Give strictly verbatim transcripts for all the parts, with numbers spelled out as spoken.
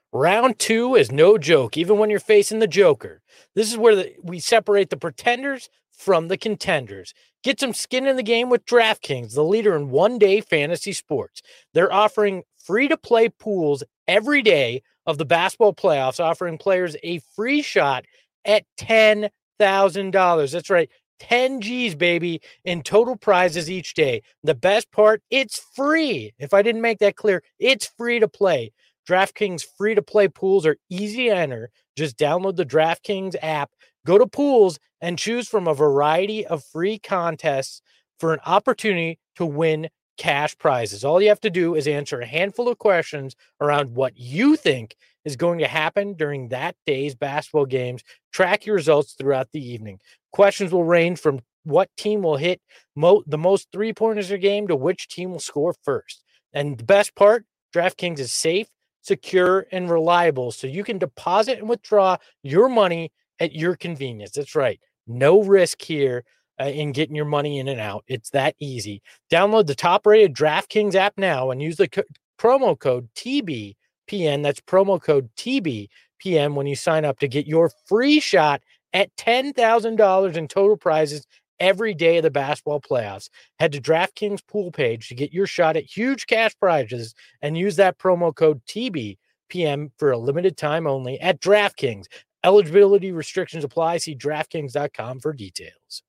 Round two is no joke, even when you're facing the Joker. This is where the, we separate the pretenders from the contenders. Get some skin in the game with DraftKings, the leader in one-day fantasy sports. They're offering free-to-play pools every day of the basketball playoffs, offering players a free shot at ten thousand dollars. That's right, ten G's, baby, in total prizes each day. The best part, it's free. If I didn't make that clear, it's free to play. DraftKings free-to-play pools are easy to enter. Just download the DraftKings app, go to pools, and choose from a variety of free contests for an opportunity to win cash prizes. All you have to do is answer a handful of questions around what you think is going to happen during that day's basketball games. Track your results throughout the evening. Questions will range from what team will hit mo- the most three-pointers a game to which team will score first. And the best part, DraftKings is safe, secure, and reliable, so you can deposit and withdraw your money at your convenience. That's right. No risk here uh, in getting your money in and out. It's that easy. Download the top-rated DraftKings app now and use the co- promo code T B P N. That's promo code T B P N when you sign up to get your free shot at ten thousand dollars in total prizes every day of the basketball playoffs. Head to DraftKings pool page to get your shot at huge cash prizes and use that promo code T B P M for a limited time only at DraftKings. Eligibility restrictions apply. See DraftKings dot com for details.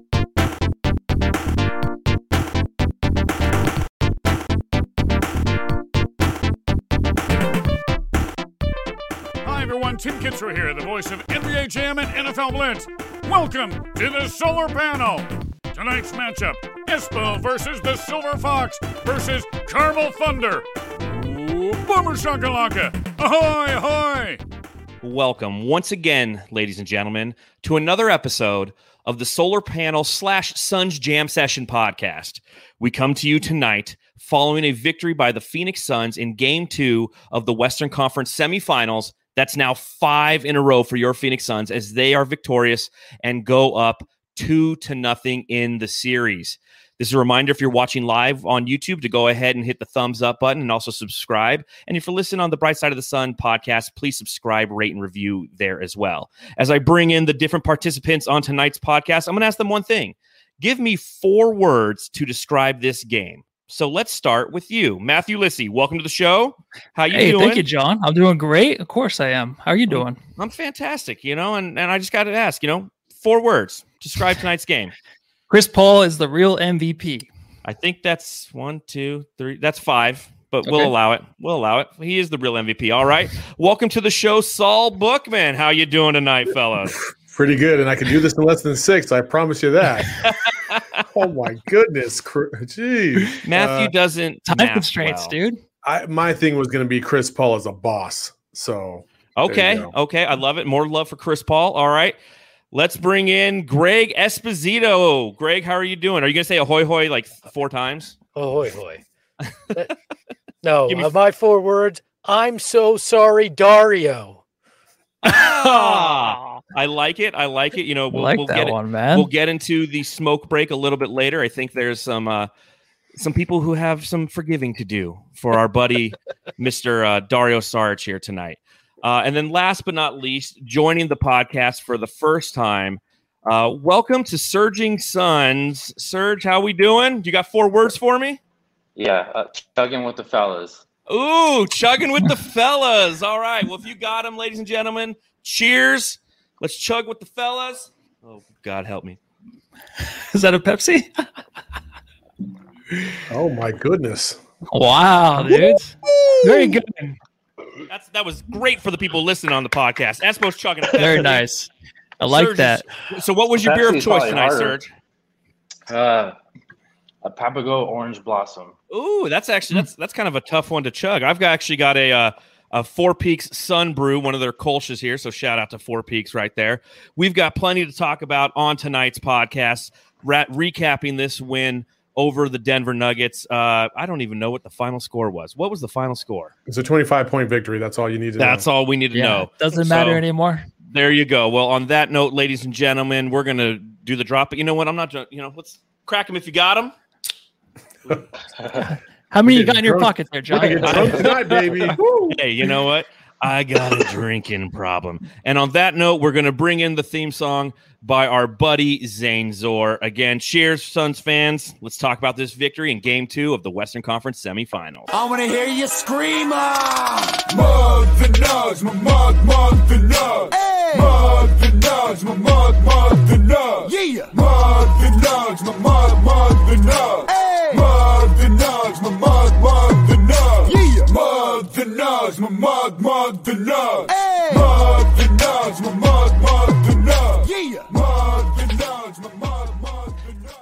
Hi, everyone. Tim Kitzrow here, the voice of N B A Jam and N F L Blitz. Welcome to the Solar Panel. Tonight's matchup, Espo versus the Silver Fox versus Carmel Thunder. Ooh, Boomer Shakalaka. Ahoy, ahoy. Welcome once again, ladies and gentlemen, to another episode of the Solar Panel slash Suns Jam Session podcast. We come to you tonight following a victory by the Phoenix Suns in Game two of the Western Conference semifinals. That's now five in a row for your Phoenix Suns as they are victorious and go up two to nothing in the series. This is a reminder, if you're watching live on YouTube, to go ahead and hit the thumbs up button and also subscribe. And if you're listening on the Bright Side of the Sun podcast, please subscribe, rate, and review there as well. As I bring in the different participants on tonight's podcast, I'm going to ask them one thing. Give me four words to describe this game. So let's start with you, Matthew Lissy. Welcome to the show. How you hey, doing? Thank you, John. I'm doing great. Of course I am. How are you doing? I'm, I'm fantastic, you know, and, and I just got to ask, you know, four words. Describe tonight's game. Chris Paul is the real M V P. I think that's one, two, three. That's five, but Okay. we'll allow it. We'll allow it. He is the real M V P. All right. Welcome to the show, Saul Bookman. How you doing tonight, fellas? Pretty good, and I can do this in less than six. I promise you that. Oh my goodness, jeez. Matthew uh, doesn't Time math constraints, well. dude. I, my thing was going to be Chris Paul as a boss. So Okay. go. Okay. I love it. More love for Chris Paul. All right. Let's bring in Greg Esposito. Greg, how are you doing? Are you going to say ahoy hoy like four times? Ahoy, hoy. No, Give me- uh, my four words. I'm so sorry, Dario. Ah, I like it. I like it. You know, I we'll, like we'll that get it. one, man. We'll get into the smoke break a little bit later. I think there's some uh, some people who have some forgiving to do for our buddy Mister Uh, Dario Saric here tonight. Uh, and then last but not least, joining the podcast for the first time, uh, welcome to Surging Suns. Serge, how we doing? You got four words for me? Yeah, uh, chugging with the fellas. Ooh, chugging with the fellas. All right. Well, if you got them, ladies and gentlemen, cheers. Let's chug with the fellas. Oh, God help me. Is that a Pepsi? Oh my goodness. Wow, dude. Very good. That's that was great for the people listening on the podcast. Espo's chugging. Very nice. I like Serge, that. So, what was your beer of Pepsi's choice probably tonight, harder. Serge? Uh, a Papago Orange Blossom. Ooh, that's actually that's that's kind of a tough one to chug. I've got, actually got a uh, a Four Peaks Sun Brew, one of their Kolsch's here. So shout out to Four Peaks right there. We've got plenty to talk about on tonight's podcast. Ra- recapping this win over the Denver Nuggets. Uh, I don't even know what the final score was. What was the final score? It's a twenty-five point victory. That's all you need to That's know. all we need to Yeah, know. doesn't matter So, anymore. There you go. Well, on that note, ladies and gentlemen, we're going to do the drop. But you know what? I'm not, you know, let's crack them if you got them. How many you We're got in your drunk. pocket there, We're John? gonna get drunk tonight, baby. Woo. Hey, you know what? I got a drinking problem. And on that note, we're going to bring in the theme song by our buddy Zane Zor. Again, cheers, Suns fans. Let's talk about this victory in game two of the Western Conference semifinals. I want to hear you scream. Mug the nugs, my mug, mug the nugs. Hey. Mug the nugs, my mug, mug the nugs. Yeah. Mug the nugs, my mug, mug the nugs. Hey. Mug the nugs, my mug, mug the nugs. Yeah. Mug the nugs, my mug, mug the nugs. Hey. Mug the nugs, my mug, mug the nugs. Yeah. Mug the nugs, my mug, mug the nugs.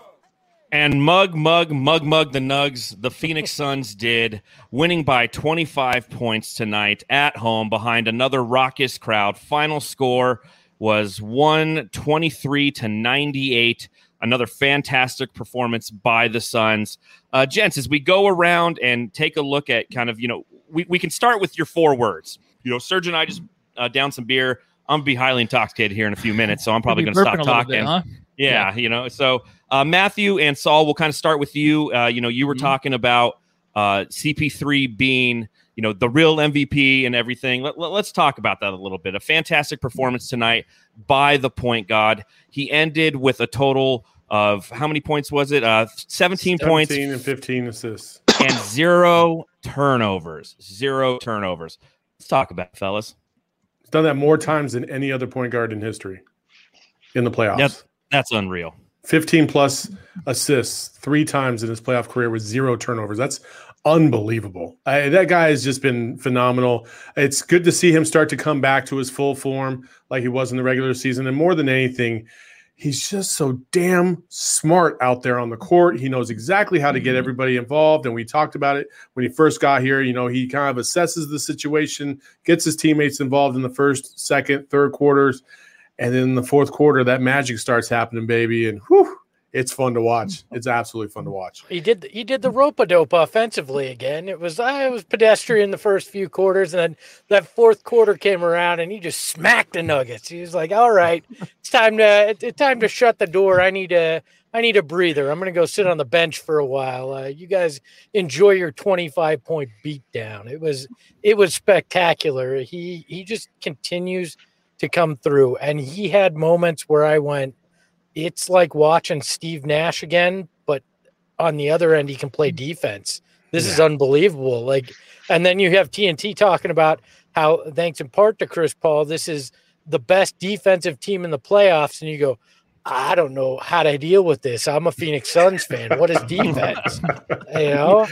And mug, mug, mug, mug the Nugs, the Phoenix Suns did, winning by twenty-five points tonight at home behind another raucous crowd. Final score was one twenty-three to ninety-eight. Another fantastic performance by the Suns. Uh, gents, as we go around and take a look at kind of, you know, we, we can start with your four words. You know, Serge and I just uh, down some beer. I'm going to be highly intoxicated here in a few minutes, so I'm probably going to stop talking. Bit, huh? Yeah, yeah, you know, so uh, Matthew and Saul, we'll kind of start with you. Uh, you know, you were mm-hmm. talking about uh, C P three being, you know, the real M V P and everything. Let, let, let's talk about that a little bit. A fantastic performance tonight by the point guard. He ended with a total of how many points was it? Uh, seventeen, seventeen points. seventeen and fifteen assists. And zero turnovers. Zero turnovers. Let's talk about it, fellas. He's done that more times than any other point guard in history in the playoffs. That's, that's unreal. fifteen plus assists three times in his playoff career with zero turnovers. That's unbelievable. I, that guy has just been phenomenal. It's good to see him start to come back to his full form like he was in the regular season. And more than anything, he's just so damn smart out there on the court. He knows exactly how to get everybody involved. And we talked about it when he first got here. You know, he kind of assesses the situation, gets his teammates involved in the first, second, third quarters. And then in the fourth quarter, that magic starts happening, baby. And whew, it's fun to watch. It's absolutely fun to watch. He did he did the rope-a-dope offensively again. It was uh, it was pedestrian the first few quarters, and then that fourth quarter came around, and he just smacked the Nuggets. He was like, "All right, it's time to it's time to shut the door. I need a I need a breather. I'm going to go sit on the bench for a while. Uh, you guys enjoy your twenty-five point beatdown." It was it was spectacular. He he just continues to come through, and he had moments where I went, it's like watching Steve Nash again, but on the other end, he can play defense. This yeah. is unbelievable. Like, and then you have T N T talking about how, thanks in part to Chris Paul, this is the best defensive team in the playoffs. And you go, I don't know how to deal with this. I'm a Phoenix Suns fan. What is defense? You know,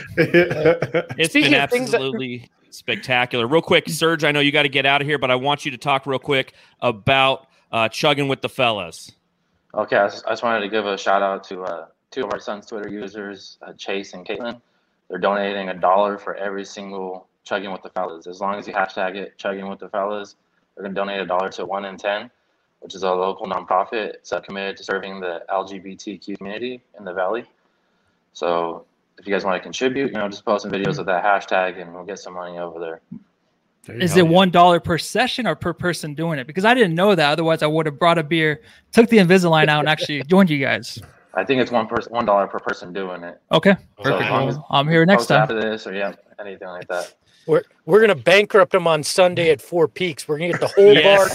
it's been absolutely that- spectacular. Real quick, Serge, I know you got to get out of here, but I want you to talk real quick about uh, chugging with the fellas. Okay, I just, I just wanted to give a shout out to uh, two of our Suns Twitter users, uh, Chase and Caitlin. They're donating a dollar for every single chugging with the fellas. As long as you hashtag it chugging with the fellas, they're going to donate a dollar to one in ten, which is a local nonprofit. It's uh, committed to serving the L G B T Q community in the Valley. So if you guys want to contribute, you know, just post some videos of that hashtag and we'll get some money over there. Is it one dollar per session or per person doing it? Because I didn't know that. Otherwise, I would have brought a beer, took the Invisalign out, and actually joined you guys. I think it's one person, one dollar per person doing it. Okay, so perfect. Well, I'm here next time after this, or yeah, anything like that. We're we're gonna bankrupt them on Sunday at Four Peaks. We're gonna get the whole yes.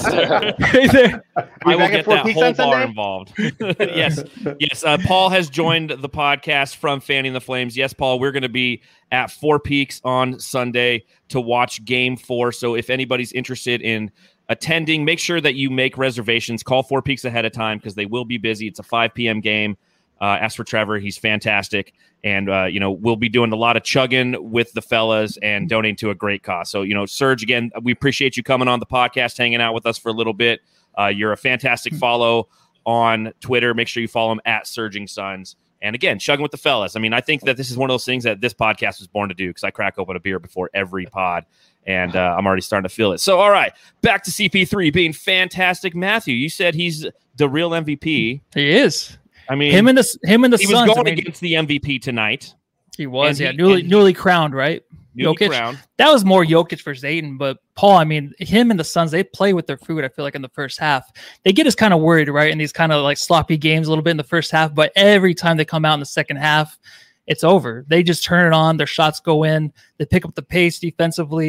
bar. I will get that whole bar involved. yes, yes. Uh, Paul has joined the podcast from Fanning the Flames. Yes, Paul, we're going to be at Four Peaks on Sunday to watch Game Four. So if anybody's interested in attending, make sure that you make reservations. Call Four Peaks ahead of time because they will be busy. It's a five p.m. game. Uh, as for Trevor, he's fantastic. And, uh, you know, we'll be doing a lot of chugging with the fellas and donating to a great cause. So, you know, Serge, again, we appreciate you coming on the podcast, hanging out with us for a little bit. Uh, you're a fantastic follow on Twitter. Make sure you follow him at Surging Suns. And, again, chugging with the fellas. I mean, I think that this is one of those things that this podcast was born to do because I crack open a beer before every pod. And uh, I'm already starting to feel it. So, all right, back to C P three being fantastic. Matthew, you said he's the real M V P. He is. I mean, him and the him and the he Suns, was going I mean, against the M V P tonight. He was, and yeah, he, newly he, newly crowned, right? Newly Jokic. crowned. That was more Jokic versus Ayton, but Paul, I mean, him and the Suns, they play with their food. I feel like in the first half, they get us kind of worried, right? In these kind of like sloppy games, a little bit in the first half, but every time they come out in the second half, it's over. They just turn it on. Their shots go in. They pick up the pace defensively,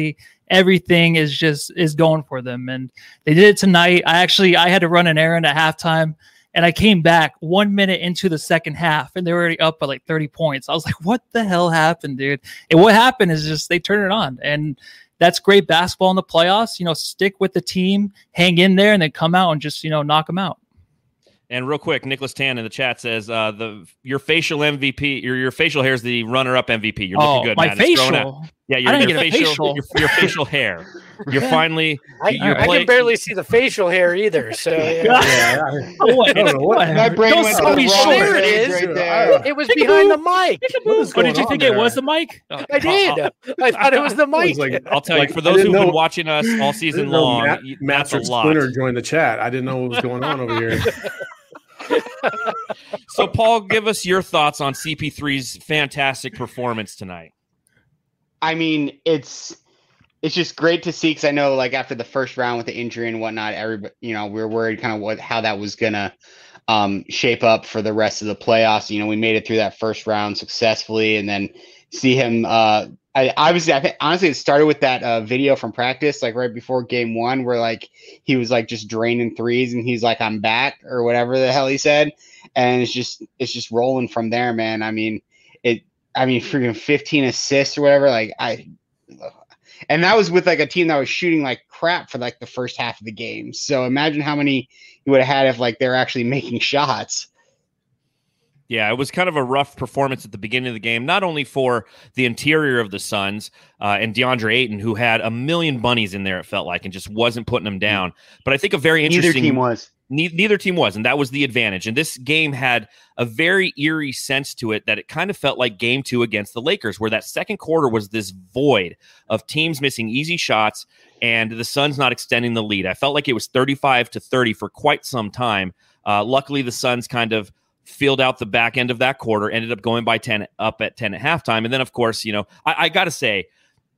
everything is just is going for them. And they did it tonight. I actually I had to run an errand at halftime, and I came back one minute into the second half, and they were already up by like thirty points. I was like, what the hell happened, dude? And what happened is just they turned it on. And that's great basketball in the playoffs. You know, stick with the team, hang in there, and then come out and just, you know, knock them out. And real quick, Nicholas Tan in the chat says uh, the your facial M V P, your your facial hair is the runner-up M V P. You're looking oh, good, my man. facial. Yeah, your, I didn't your get a facial, facial. Your, your facial hair. You're finally. I, you're I play- can barely see the facial hair either. So yeah. Yeah, I, Oh, what? I don't know what. My brain Don't went tell to me the short. wrong There it page is. right there. It was behind the mic. What is Oh, going did you on think there? it was the mic? Oh. I did. I thought it was the I mic. was like, I'll tell like, you, for I those didn't who've been know- watching us all I season didn't know long, Matt, y- Matt that's a from lot. Splinter joined the chat. I didn't know what was going on over here. So, Paul, give us your thoughts on C P three's fantastic performance tonight. I mean, it's it's just great to see because I know, like after the first round with the injury and whatnot, everybody, you know, we were worried kind of what how that was gonna um, shape up for the rest of the playoffs. You know, we made it through that first round successfully, and then see him. Uh, I obviously, I think honestly, it started with that uh, video from practice, like right before game one, where like he was like just draining threes, and he's like, "I'm back" or whatever the hell he said, and it's just it's just rolling from there, man. I mean, it. I mean, freaking fifteen assists or whatever. Like I, and that was with like a team that was shooting like crap for like the first half of the game. So imagine how many you would have had if like they're actually making shots. Yeah, it was kind of a rough performance at the beginning of the game, not only for the interior of the Suns uh, and DeAndre Ayton, who had a million bunnies in there, it felt like, and just wasn't putting them down. But I think a very Neither interesting team was. Ne- neither team was, and that was the advantage. And this game had a very eerie sense to it that it kind of felt like game two against the Lakers, where that second quarter was this void of teams missing easy shots and the Suns not extending the lead. I felt like it was thirty-five to thirty for quite some time. Uh, luckily, the Suns kind of filled out the back end of that quarter, ended up going by ten, up at ten at halftime. And then, of course, you know, I, I got to say,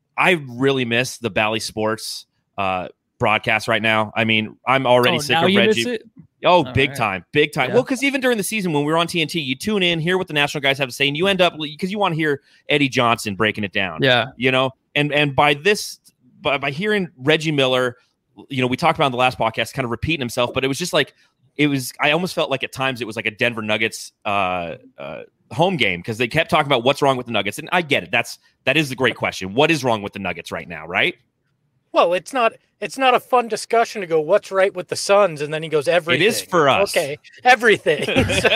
I really miss the Bally Sports uh broadcast right now. I mean, I'm already Oh, sick now of you Reggie. miss it? Oh, All big right. time, big time. Yeah. Well, because even during the season when we were on T N T, you tune in, hear what the national guys have to say, and you end up because you want to hear Eddie Johnson breaking it down. Yeah. You know, and and by this, by by hearing Reggie Miller, you know, we talked about in the last podcast, kind of repeating himself, but it was just like it was. I almost felt like at times it was like a Denver Nuggets uh, uh, home game because they kept talking about what's wrong with the Nuggets, and I get it. That's that is the great question. What is wrong with the Nuggets right now, right? Well, it's not it's not a fun discussion to go, what's right with the Suns? And then he goes, everything. It is for us. Okay, everything. So,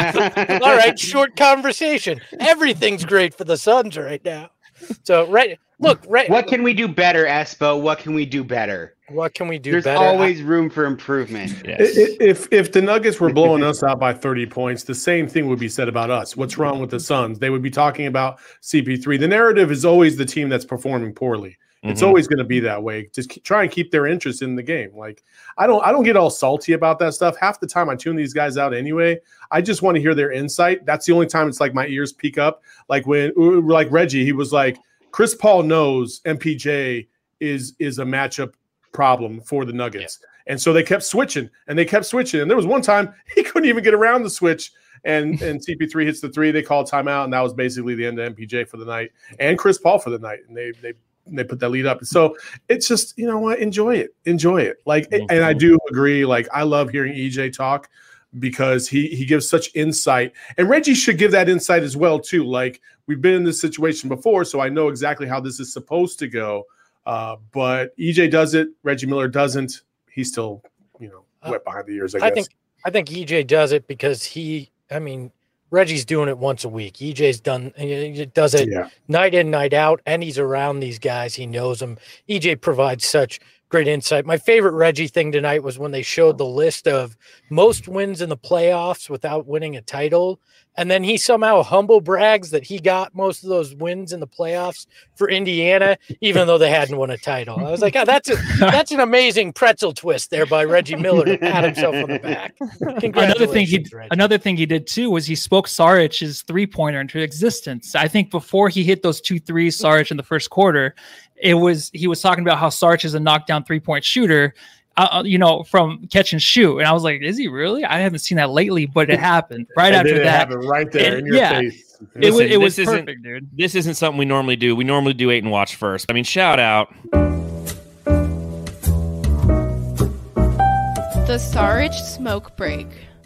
all right, short conversation. Everything's great for the Suns right now. So, right, look, right. What can we do better, Espo? What can we do better? What can we do There's better? always room for improvement. I- i- If if the Nuggets were blowing us out by thirty points, the same thing would be said about us. What's wrong with the Suns? They would be talking about C P three. The narrative is always the team that's performing poorly. It's Mhm. always going to be that way. Just keep, try and keep their interest in the game. Like I don't, I don't get all salty about that stuff. Half the time I tune these guys out anyway. I just want to hear their insight. That's the only time it's like my ears peak up. Like when, like Reggie, he was like, Chris Paul knows M P J is is a matchup problem for the Nuggets, and so they kept switching and they kept switching. And there was one time he couldn't even get around the switch. And and C P three hits the three. They call timeout, and that was basically the end of M P J for the night and Chris Paul for the night. And they they. And they put that lead up. So it's just, you know what, enjoy it. Enjoy it. Like, Mhm. and I do agree. Like, I love hearing E J talk because he he gives such insight. And Reggie should give that insight as well, too. Like, we've been in this situation before, so I know exactly how this is supposed to go. Uh, but E J does it, Reggie Miller doesn't. He's still, you know, wet behind the ears, I, I guess. think I think E J does it because he, I mean, Reggie's doing it once a week. E J's done he does it Yeah. night in, night out, and he's around these guys. He knows them. E J provides such great insight. My favorite Reggie thing tonight was when they showed the list of most wins in the playoffs without winning a title. And then he somehow humble brags that he got most of those wins in the playoffs for Indiana, even though they hadn't won a title. I was like, oh, that's a, that's an amazing pretzel twist there by Reggie Miller to pat himself on the back. Another thing he Congratulations, Reggie. another thing he did too was he spoke Saric's three pointer into existence. I think before he hit those two threes, Saric in the first quarter, it was he was talking about how Saric is a knockdown three point shooter. Uh, you know, from catch and shoot, and I was like, "Is he really?" I haven't seen that lately, but it happened right And after then it that. happened right there And- in your yeah. face. It was Listen, it was this isn't- perfect, dude. This isn't something we normally do. We normally do eight and watch first. I mean, shout out The Saric Smoke Break.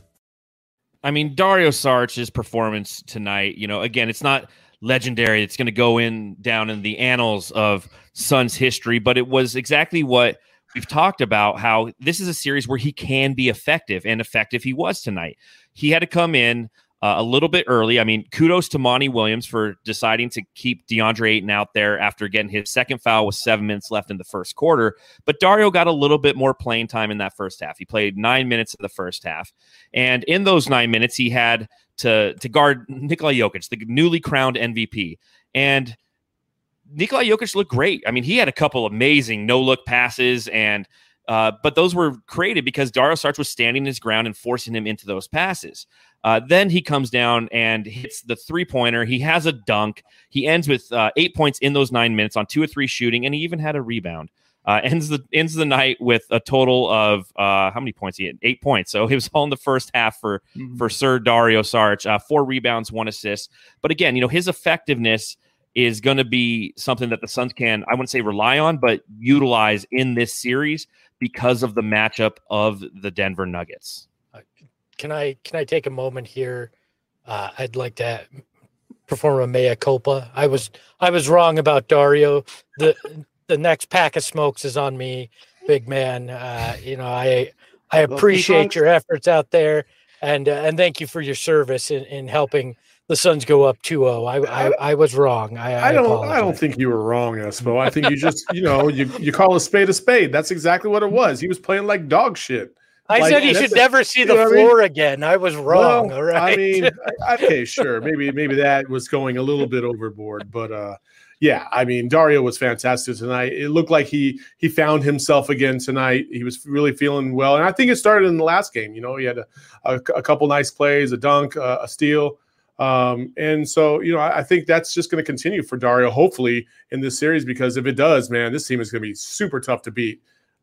I mean, Dario Saric's performance tonight, you know, again, it's not legendary. It's going to go in down in the annals of Suns history, but it was exactly what we've talked about, how this is a series where he can be effective, and effective he was tonight. He had to come in uh, a little bit early. I mean, kudos to Monty Williams for deciding to keep DeAndre Ayton out there after getting his second foul with seven minutes left in the first quarter. But Dario got a little bit more playing time in that first half. He played nine minutes in the first half. And in those nine minutes, he had to, to guard Nikola Jokic, the newly crowned M V P. And Nikola Jokic looked great. I mean, he had a couple amazing no-look passes, and uh, but those were created because Dario Saric was standing his ground and forcing him into those passes. Uh, then he comes down and hits the three-pointer. He has a dunk. He ends with uh, eight points in those nine minutes on two or three shooting, and he even had a rebound. Uh, ends the ends the night with a total of uh, how many points he had? Eight points. So it was all in the first half for mm-hmm. for Sir Dario Saric. Uh, four rebounds, one assist. But again, you know, his effectiveness is going to be something that the Suns can, I wouldn't say rely on, but utilize in this series because of the matchup of the Denver Nuggets. Uh, can I can I take a moment here? Uh, I'd like to perform a mea culpa. I was I was wrong about Dario. The the next pack of smokes is on me, big man. Uh, you know, I I appreciate your efforts out there, and uh, and thank you for your service in, in helping the Suns go up two oh. I, I I was wrong. I, I, I don't apologize. I don't think you were wrong, Espo. I think you just, you know, you, you call a spade a spade. That's exactly what it was. He was playing like dog shit. I like, said he should a, never see the floor I mean? again. I was wrong. Well, all right. I mean, okay, sure. Maybe maybe that was going a little bit overboard, but uh yeah, I mean, Dario was fantastic tonight. It looked like he he found himself again tonight. He was really feeling well, and I think it started in the last game. You know, he had a, a, a couple nice plays, a dunk, uh, a steal. Um, and so, you know, I, I think that's just going to continue for Dario, hopefully, in this series, because if it does, man, this team is going to be super tough to beat.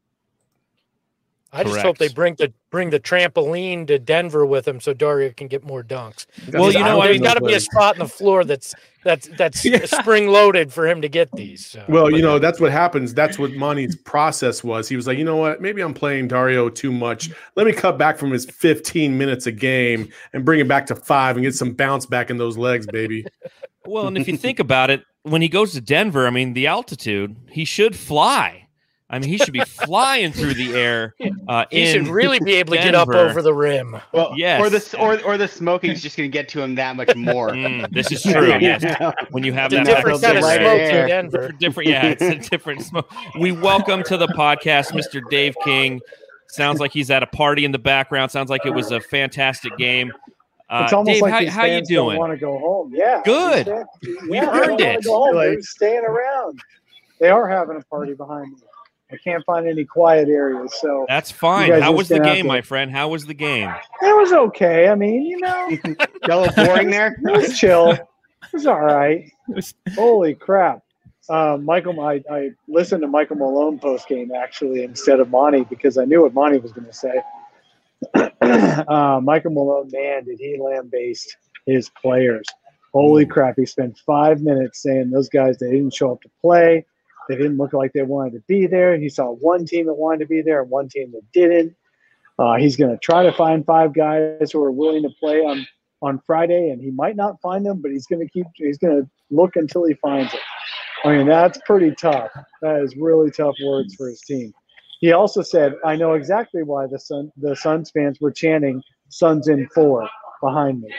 I just Correct. hope they bring the bring the trampoline to Denver with him so Dario can get more dunks. Well, you know, there's got to be a spot in the floor that's that's that's yeah. spring loaded for him to get these. So. Well, you know, that's what happens. That's what Monty's process was. He was like, you know what? Maybe I'm playing Dario too much. Let me cut back from his fifteen minutes a game and bring it back to five and get some bounce back in those legs, baby. Well, and if you think about it, when he goes to Denver, I mean, the altitude, he should fly. I mean, he should be flying through the air. Uh, he should really be able to Denver. get up over the rim. Well, yes. Or the or or the smoking's just going to get to him that much more. Mm, this is true. Yes. When you have it's that a different kind of right smoke air. in Denver. Different, yeah, it's a different smoke. We welcome to the podcast Mister Dave King. Sounds like he's at a party in the background. Sounds like it was a fantastic game. Uh, it's almost Dave, like how, these how you fans don't doing? want to go home. Yeah, Good. Yeah, We've earned it. Go home. They're staying around. They are having a party behind me. I can't find any quiet areas, so that's fine. How was the game, my friend? How was the game? It was okay. I mean, you know, a little boring there. It was chill. It was all right. Holy crap! Uh, Michael, I, I listened to Michael Malone post game actually instead of Monty because I knew what Monty was going to say. uh, Michael Malone, man, did he lambaste his players? Holy crap! He spent five minutes saying those guys they didn't show up to play. They didn't look like they wanted to be there. He saw one team that wanted to be there and one team that didn't. Uh, he's going to try to find five guys who are willing to play on, on Friday, and he might not find them, but he's going to keep. He's going to look until he finds it. I mean, that's pretty tough. That is really tough words for his team. He also said, "I know exactly why the Sun, the Suns fans were chanting Suns in four behind me."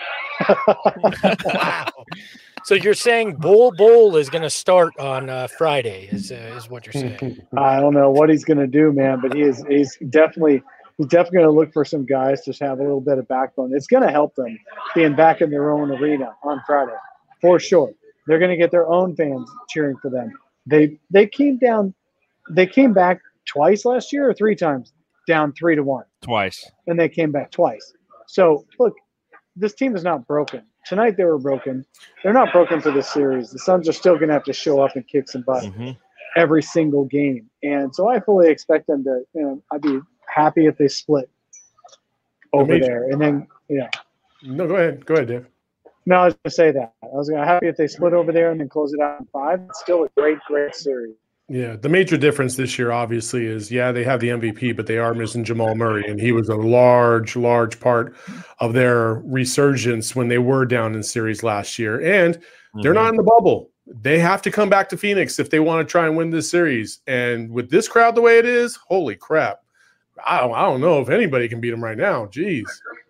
Wow. So you're saying Bull Bull is going to start on uh, Friday? Is uh, is what you're saying? I don't know what he's going to do, man, but he is he's definitely he's definitely going to look for some guys to have a little bit of backbone. It's going to help them being back in their own arena on Friday, for sure. They're going to get their own fans cheering for them. They they came down, they came back twice last year or three times, down three to one. Twice, and they came back twice. So look, this team is not broken. Tonight they were broken. They're not broken for this series. The Suns are still going to have to show up and kick some butt mm-hmm. every single game. And so I fully expect them to, you know, I'd be happy if they split over there. And then, yeah. No, go ahead. Go ahead, Dave. No, I was going to say that. I was going to happy if they split over there and then close it out in five. It's still a great, great series. Yeah, the major difference this year, obviously, is yeah, they have the M V P, but they are missing Jamal Murray, and he was a large, large part of their resurgence when they were down in series last year. And mm-hmm. they're not in the bubble. They have to come back to Phoenix if they want to try and win this series. And with this crowd the way it is, holy crap. I don't, I don't know if anybody can beat them right now. Jeez.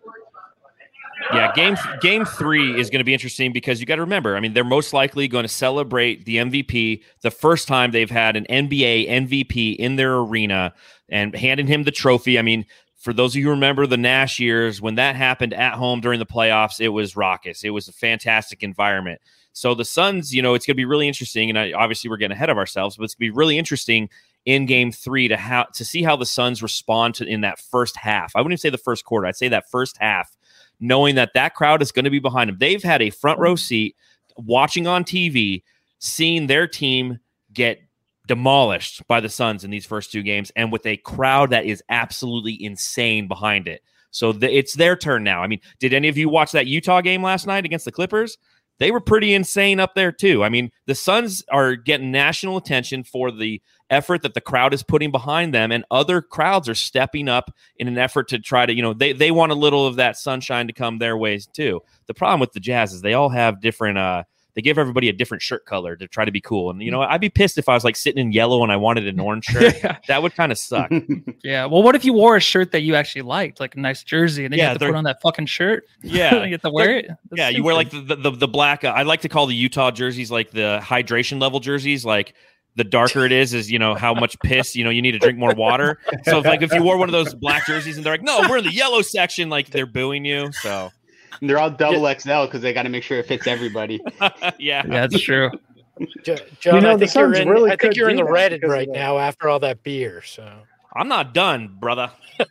Yeah, game game three is going to be interesting because you got to remember, I mean, they're most likely going to celebrate the M V P the first time they've had an N B A M V P in their arena and handing him the trophy. I mean, for those of you who remember the Nash years, when that happened at home during the playoffs, it was raucous. It was a fantastic environment. So the Suns, you know, it's going to be really interesting, and I, obviously we're getting ahead of ourselves, but it's going to be really interesting in game three to how to see how the Suns respond to in that first half. I wouldn't even say the first quarter. I'd say that first half, knowing that that crowd is going to be behind them. They've had a front row seat watching on T V, seeing their team get demolished by the Suns in these first two games, and with a crowd that is absolutely insane behind it. So the, it's their turn now. I mean, did any of you watch that Utah game last night against the Clippers? They were pretty insane up there too. I mean, the Suns are getting national attention for the effort that the crowd is putting behind them, and other crowds are stepping up in an effort to try to, you know, they, they want a little of that sunshine to come their ways too. The problem with the Jazz is they all have different, uh, they give everybody a different shirt color to try to be cool. And, you know, I'd be pissed if I was like sitting in yellow and I wanted an orange shirt. Yeah. That would kind of suck. Yeah. Well, what if you wore a shirt that you actually liked, like a nice jersey, and then yeah, you have to put on that fucking shirt? Yeah. You have to wear it? That's yeah. Stupid. You wear like the, the, the black, uh, I like to call the Utah jerseys like the hydration level jerseys. Like the darker it is, is, you know, how much piss, you know, you need to drink more water. So if like, if you wore one of those black jerseys and they're like, no, we're in the yellow section, like they're booing you. So. And they're all double X L because they got to make sure it fits everybody. yeah, yeah, that's true. John, you know, I think you're in. Really I think you're in the Reddit right now after all that beer. So I'm not done, brother.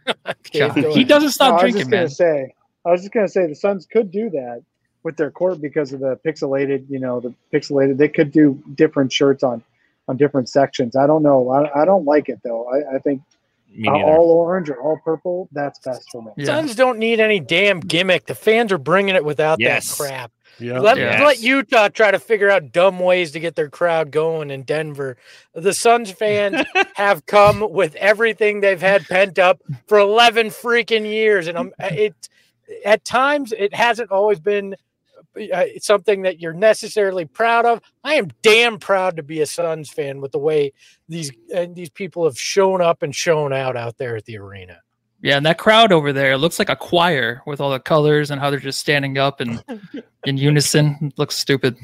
Okay, he doesn't stop no, drinking, man. I was just gonna say, I was just gonna say the Suns could do that with their court because of the pixelated. You know, the pixelated. They could do different shirts on on different sections. I don't know. I, I don't like it though. I, I think. Uh, all orange or all purple, that's best for me. Yeah. Suns don't need any damn gimmick. The fans are bringing it without yes. that crap. Yep. Let, yes. let Utah try to figure out dumb ways to get their crowd going in Denver. The Suns fans have come with everything they've had pent up for eleven freaking years. And um, it, at times, it hasn't always been uh, something that you're necessarily proud of. I am damn proud to be a Suns fan with the way these uh, these people have shown up and shown out out there at the arena. Yeah, and that crowd over there looks like a choir with all the colors and how they're just standing up and in unison. It looks stupid.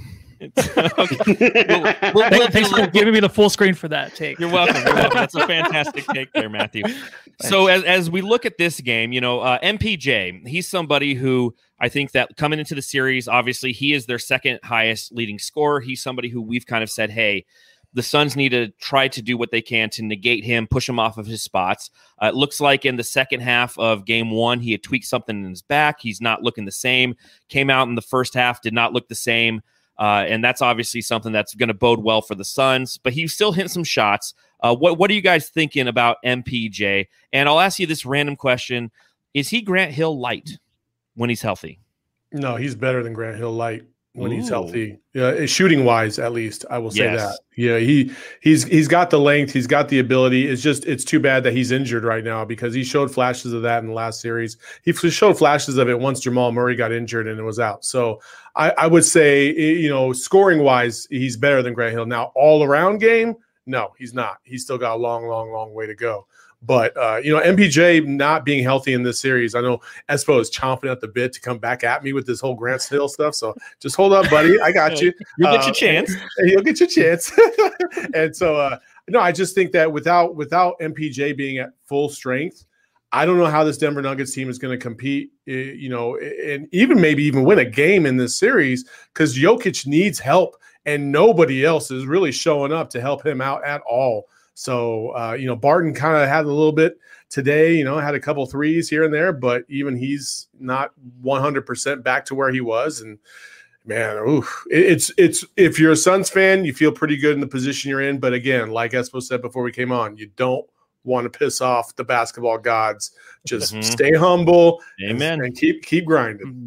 well, well, Thanks for giving me the full screen for that take. You're welcome. You're welcome. That's a fantastic take there, Matthew. So as, as we look at this game, you know, uh, M P J, he's somebody who I think that coming into the series, obviously he is their second highest leading scorer. He's somebody who we've kind of said, hey, the Suns need to try to do what they can to negate him, push him off of his spots. Uh, it looks like in the second half of game one, he had tweaked something in his back. He's not looking the same. Came out in the first half, did not look the same. Uh, and that's obviously something that's going to bode well for the Suns. But he still hit some shots. Uh, what, what are you guys thinking about M P J? And I'll ask you this random question. Is he Grant Hill light when he's healthy? No, he's better than Grant Hill light. When Ooh. he's healthy, yeah, shooting wise, at least I will say yes. that. Yeah, he he's he's got the length, he's got the ability. It's just it's too bad that he's injured right now because he showed flashes of that in the last series. He showed flashes of it once Jamal Murray got injured and it was out. So I, I would say, you know, scoring wise, he's better than Grant Hill. Now, all around game, no, he's not. He's still got a long, long, long way to go. But, uh, you know, M P J not being healthy in this series, I know Espo is chomping at the bit to come back at me with this whole Grant Hill stuff. So just hold up, buddy. I got you. You'll get uh, your chance. You'll get your chance. And so, uh, no, I just think that without without M P J being at full strength, I don't know how this Denver Nuggets team is going to compete, you know, and even maybe even win a game in this series because Jokic needs help and nobody else is really showing up to help him out at all. So, uh, you know, Barton kind of had a little bit today, you know, had a couple threes here and there, but even he's not one hundred percent back to where he was. And, man, oof, it's it's if you're a Suns fan, you feel pretty good in the position you're in. But, again, like Espo said before we came on, you don't want to piss off the basketball gods. Just mm-hmm. stay humble Amen. And, and keep keep grinding.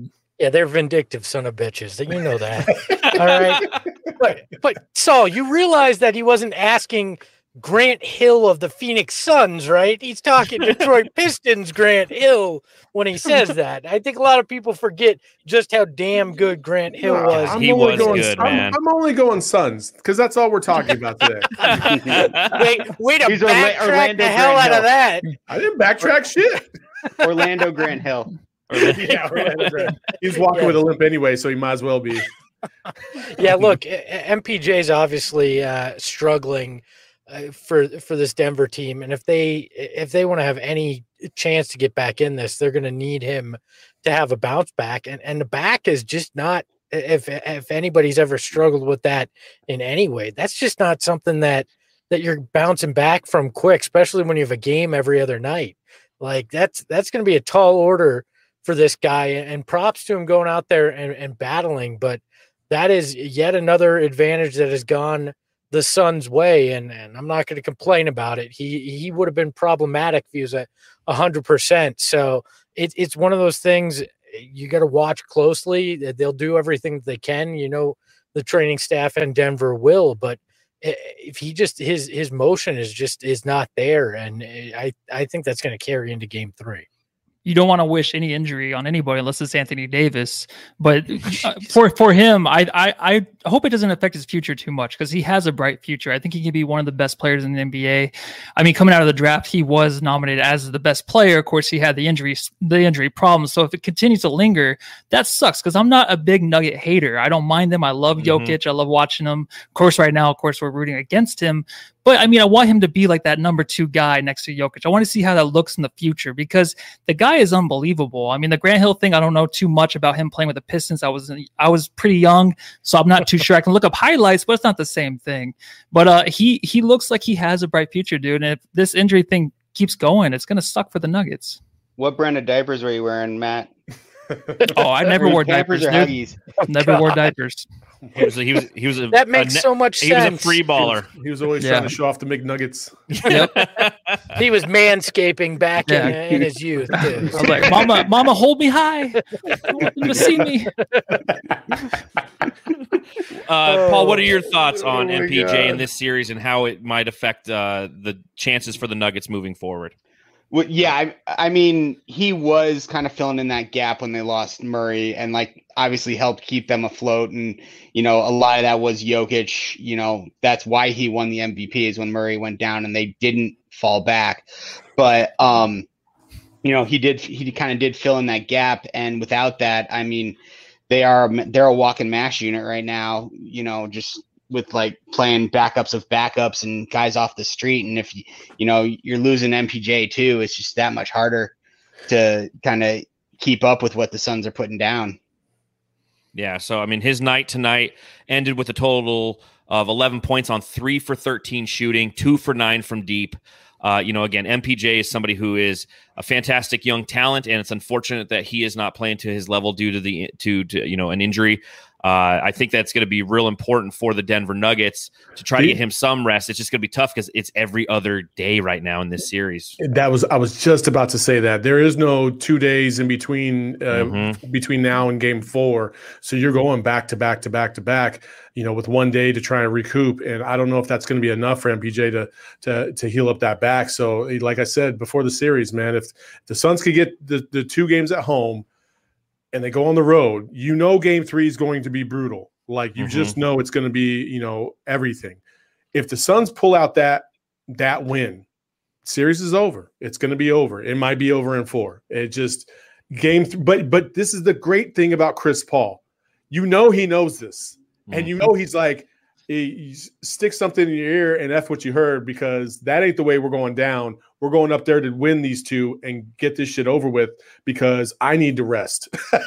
Yeah, they're vindictive son of bitches. You know that. All right. But, but Saul, you realize that he wasn't asking Grant Hill of the Phoenix Suns, right? He's talking Detroit Pistons Grant Hill when he says that. I think a lot of people forget just how damn good Grant Hill No, was. I'm He only was going, good, I'm, man. I'm only going Suns because that's all we're talking about today. Wait, wait to He's Orla- backtrack Orlando the hell Grant out of Hill. that. I didn't backtrack shit. Orlando Grant Hill. Yeah, Orlando Grant. He's walking Yeah. with a limp anyway, so he might as well be. Yeah, look, M P J's obviously uh, struggling uh, for for this Denver team, and if they if they want to have any chance to get back in this, they're going to need him to have a bounce back, and and the back is just not. If if anybody's ever struggled with that in any way, that's just not something that that you're bouncing back from quick, especially when you have a game every other night. Like that's that's going to be a tall order for this guy, and props to him going out there and, and battling, but that is yet another advantage that has gone the Suns' way, and, and I'm not going to complain about it. He he would have been problematic if he was at one hundred percent. So it, it's one of those things you got to watch closely. They'll do everything that they can. You know, the training staff in Denver will, but if he just his his motion is just is not there, and I I think that's going to carry into game three. You don't want to wish any injury on anybody unless it's Anthony Davis. But uh, for for him, I, I I hope it doesn't affect his future too much because he has a bright future. I think he can be one of the best players in the N B A. I mean, coming out of the draft, he was nominated as the best player. Of course, he had the injury the injury problems. So if it continues to linger, that sucks because I'm not a big Nugget hater. I don't mind him. I love Mm-hmm. Jokic. I love watching him. Of course, right now, of course, we're rooting against him. But I mean, I want him to be like that number two guy next to Jokic. I want to see how that looks in the future because the guy is unbelievable. I mean, the Grant Hill thing, I don't know too much about him playing with the Pistons. I was I was pretty young, so I'm not too sure. I can look up highlights, but it's not the same thing. But uh, he he looks like he has a bright future, dude. And if this injury thing keeps going, it's gonna suck for the Nuggets. What brand of diapers were you wearing, Matt? Oh, I never wore Campers diapers. or Dude. Huggies? Never wore diapers. He was a, he was he was a That a makes ne- so much he was a sense. free baller. He was always Yeah. trying to show off the McNuggets. He was manscaping back Yeah. in, in his youth. Too. I was like, Mama, Mama, hold me high. I want them to see me. Uh, Paul, what are your thoughts on Oh my M P J God. in this series and how it might affect uh, the chances for the Nuggets moving forward? Well, yeah, I, I mean, he was kind of filling in that gap when they lost Murray and, like, obviously helped keep them afloat. And, you know, a lot of that was Jokic. You know, that's why he won the M V P is when Murray went down and they didn't fall back. But, um, you know, he did, he kind of did fill in that gap. And without that, I mean, they are, they're a walking mash unit right now, you know, just with like playing backups of backups and guys off the street. And if you, you know, you're losing M P J too, it's just that much harder to kind of keep up with what the Suns are putting down. Yeah, so I mean, his night tonight ended with a total of eleven points on three for thirteen shooting, two for nine from deep. Uh, you know, again, M P J is somebody who is a fantastic young talent, and it's unfortunate that he is not playing to his level due to the to, to you know an injury. Uh, I think that's going to be real important for the Denver Nuggets to try to get him some rest. It's just going to be tough because it's every other day right now in this series. That was I was just about to say that there is no two days in between uh, Mhm. between now and game four, so you're going back to back to back to back. You know, with one day to try and recoup, and I don't know if that's going to be enough for M P J to to to heal up that back. So, like I said before the series, man, if the Suns could get the the two games at home and they go on the road, you know, game three is going to be brutal. Like you Mhm. just know it's going to be, you know, everything. If the Suns pull out that that win, series is over. It's going to be over. It might be over in four. It just game, th- but but this is the great thing about Chris Paul. You know he knows this, and you know he's like, he, he stick something in your ear and F what you heard because that ain't the way we're going down. We're going up there to win these two and get this shit over with because I need to rest.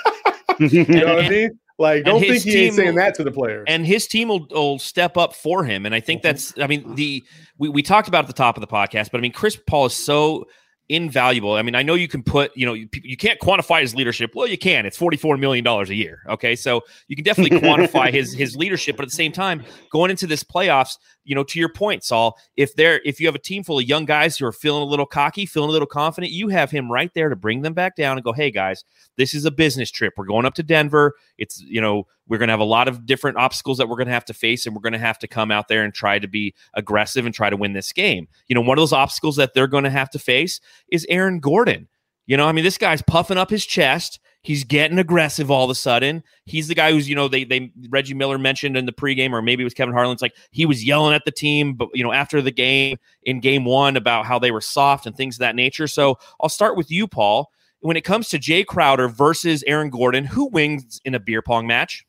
You know what I mean? Like, And don't his think he ain't team- saying that to the players. And his team will, will step up for him. And I think that's, I mean, the we, we talked about at the top of the podcast, but I mean, Chris Paul is so invaluable. I mean, I know you can put, you know, you, you can't quantify his leadership. Well, you can. It's forty-four million dollars a year. Okay. So you can definitely quantify his his leadership. But at the same time, going into this playoffs, you know, to your point, Saul, if they're if you have a team full of young guys who are feeling a little cocky, feeling a little confident, you have him right there to bring them back down and go, hey guys, this is a business trip. We're going up to Denver. It's, you know, we're going to have a lot of different obstacles that we're going to have to face, and we're going to have to come out there and try to be aggressive and try to win this game. You know, one of those obstacles that they're going to have to face is Aaron Gordon. You know, I mean, this guy's puffing up his chest. He's getting aggressive all of a sudden. He's the guy who's, you know, they they Reggie Miller mentioned in the pregame, or maybe it was Kevin Harlan's, like he was yelling at the team, but you know, after the game in game one about how they were soft and things of that nature. So I'll start with you, Paul. When it comes to Jay Crowder versus Aaron Gordon, who wins in a beer pong match?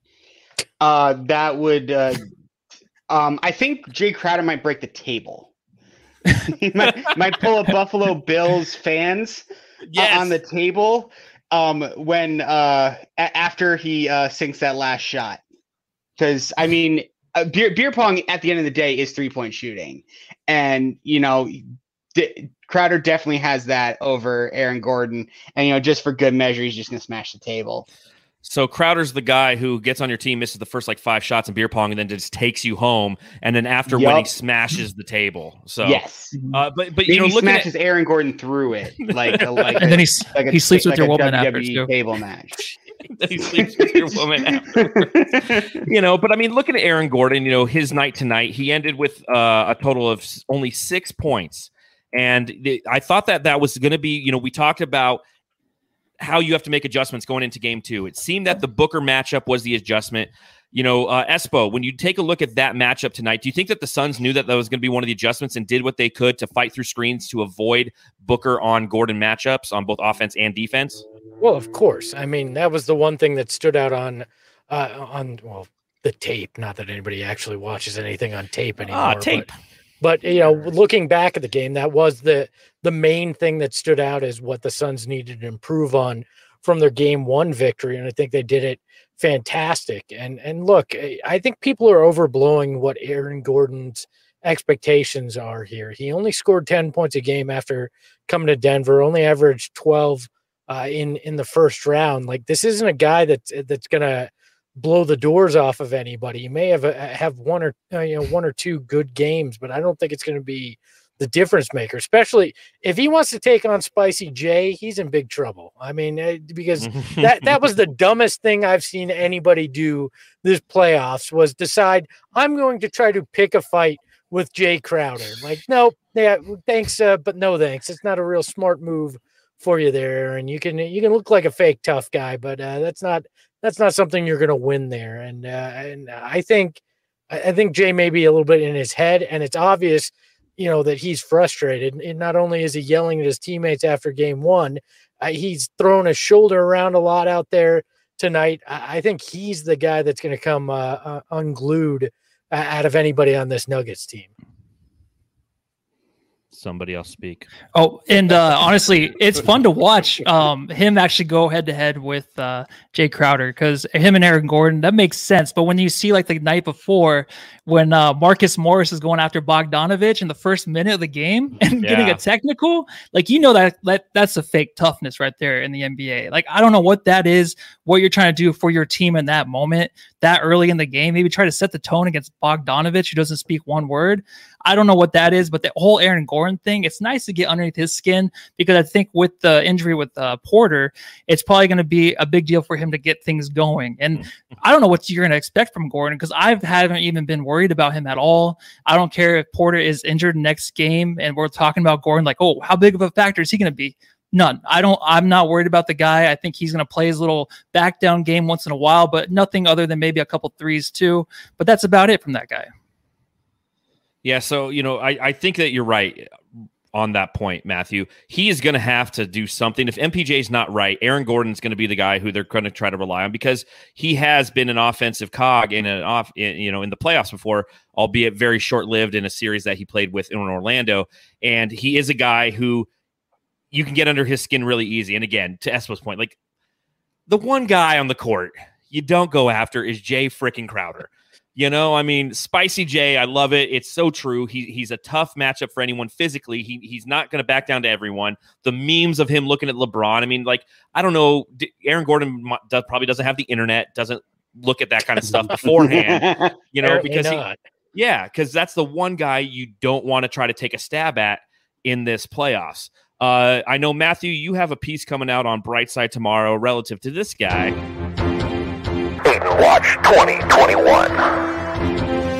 Uh, that would, uh, um, I think Jay Crowder might break the table. He might, might pull a Buffalo Bills fans yes. on the table. Um, when uh a- after he uh sinks that last shot, because I mean, uh, beer beer pong at the end of the day is three point shooting, and you know, D- Crowder definitely has that over Aaron Gordon, and you know, just for good measure, he's just gonna smash the table. So Crowder's the guy who gets on your team, misses the first like five shots in beer pong, and then just takes you home. And then after Yep. when he smashes the table. So yes, uh, but but Maybe you know, he looking smashes at Aaron Gordon through it, like a, like And a, then he's, like a, he sleeps with like your a woman W after W E too. table match. he sleeps with your woman afterwards. You know, but I mean, looking at Aaron Gordon, you know, his night tonight, he ended with uh, a total of s- only six points, and the, I thought that that was going to be, you know, we talked about how you have to make adjustments going into game two. It seemed that the Booker matchup was the adjustment. You know, uh, Espo, when you take a look at that matchup tonight, do you think that the Suns knew that that was going to be one of the adjustments and did what they could to fight through screens to avoid Booker on Gordon matchups on both offense and defense? Well, of course. I mean, that was the one thing that stood out on, uh, on well, the tape. Not that anybody actually watches anything on tape anymore. Ah, tape. But, but you know, looking back at the game, that was the the main thing that stood out as what the Suns needed to improve on from their game one victory, and I think they did it fantastic. And and look, I think people are overblowing what Aaron Gordon's expectations are here. He only scored ten points a game after coming to Denver, only averaged twelve uh, in in the first round. Like, this isn't a guy that's that's gonna blow the doors off of anybody. You may have a, have one or uh, you know one or two good games, but I don't think it's going to be the difference maker, especially if he wants to take on Spicy J. He's in big trouble. I mean, uh, because that that was the dumbest thing I've seen anybody do this playoffs, was decide I'm going to try to pick a fight with Jay Crowder. Like, nope, yeah, thanks, uh, but no thanks. It's not a real smart move for you there, and you can you can look like a fake tough guy, but uh, that's not that's not something you're going to win there. And uh, and I think I think Jay may be a little bit in his head, and it's obvious, you know, that he's frustrated. And not only is he yelling at his teammates after game one, uh, he's throwing his shoulder around a lot out there tonight. I, I think he's the guy that's going to come uh, uh, unglued uh, out of anybody on this Nuggets team. Somebody else speak. Oh, and uh, honestly, it's fun to watch um, him actually go head to head with uh, Jay Crowder, because him and Aaron Gordon, that makes sense. But when you see like the night before, when uh, Marcus Morris is going after Bogdanovich in the first minute of the game and Yeah. getting a technical, like, you know, that, that that's a fake toughness right there in the N B A. Like, I don't know what that is, what you're trying to do for your team in that moment, that early in the game. Maybe try to set the tone against Bogdanovich, who doesn't speak one word. I don't know what that is, but the whole Aaron Gordon thing, it's nice to get underneath his skin, because I think with the injury with uh, Porter, it's probably going to be a big deal for him to get things going. And I don't know what you're going to expect from Gordon, because I haven't even been worried about him at all. I don't care if Porter is injured next game and we're talking about Gordon like, oh, how big of a factor is he going to be? None. I don't, I'm not worried about the guy. I think he's going to play his little back down game once in a while, but nothing other than maybe a couple threes too. But that's about it from that guy. Yeah, so, you know, I, I think that you're right on that point, Matthew. He is going to have to do something. If M P J's not right, Aaron Gordon's going to be the guy who they're going to try to rely on, because he has been an offensive cog in an off, in, you know, in the playoffs before, albeit very short-lived in a series that he played with in Orlando. And he is a guy who you can get under his skin really easy. And again, to Espo's point, like, the one guy on the court you don't go after is Jay freaking Crowder. You know, I mean, Spicy J, I love it. It's so true. He, he's a tough matchup for anyone physically. He He's not going to back down to everyone. The memes of him looking at LeBron, I mean, like, I don't know. Aaron Gordon probably doesn't have the internet, doesn't look at that kind of stuff beforehand, you know, Apparently because he, not. Yeah, because that's the one guy you don't want to try to take a stab at in this playoffs. Uh, I know, Matthew, you have a piece coming out on Brightside tomorrow relative to this guy. Aiton Watch twenty twenty-one.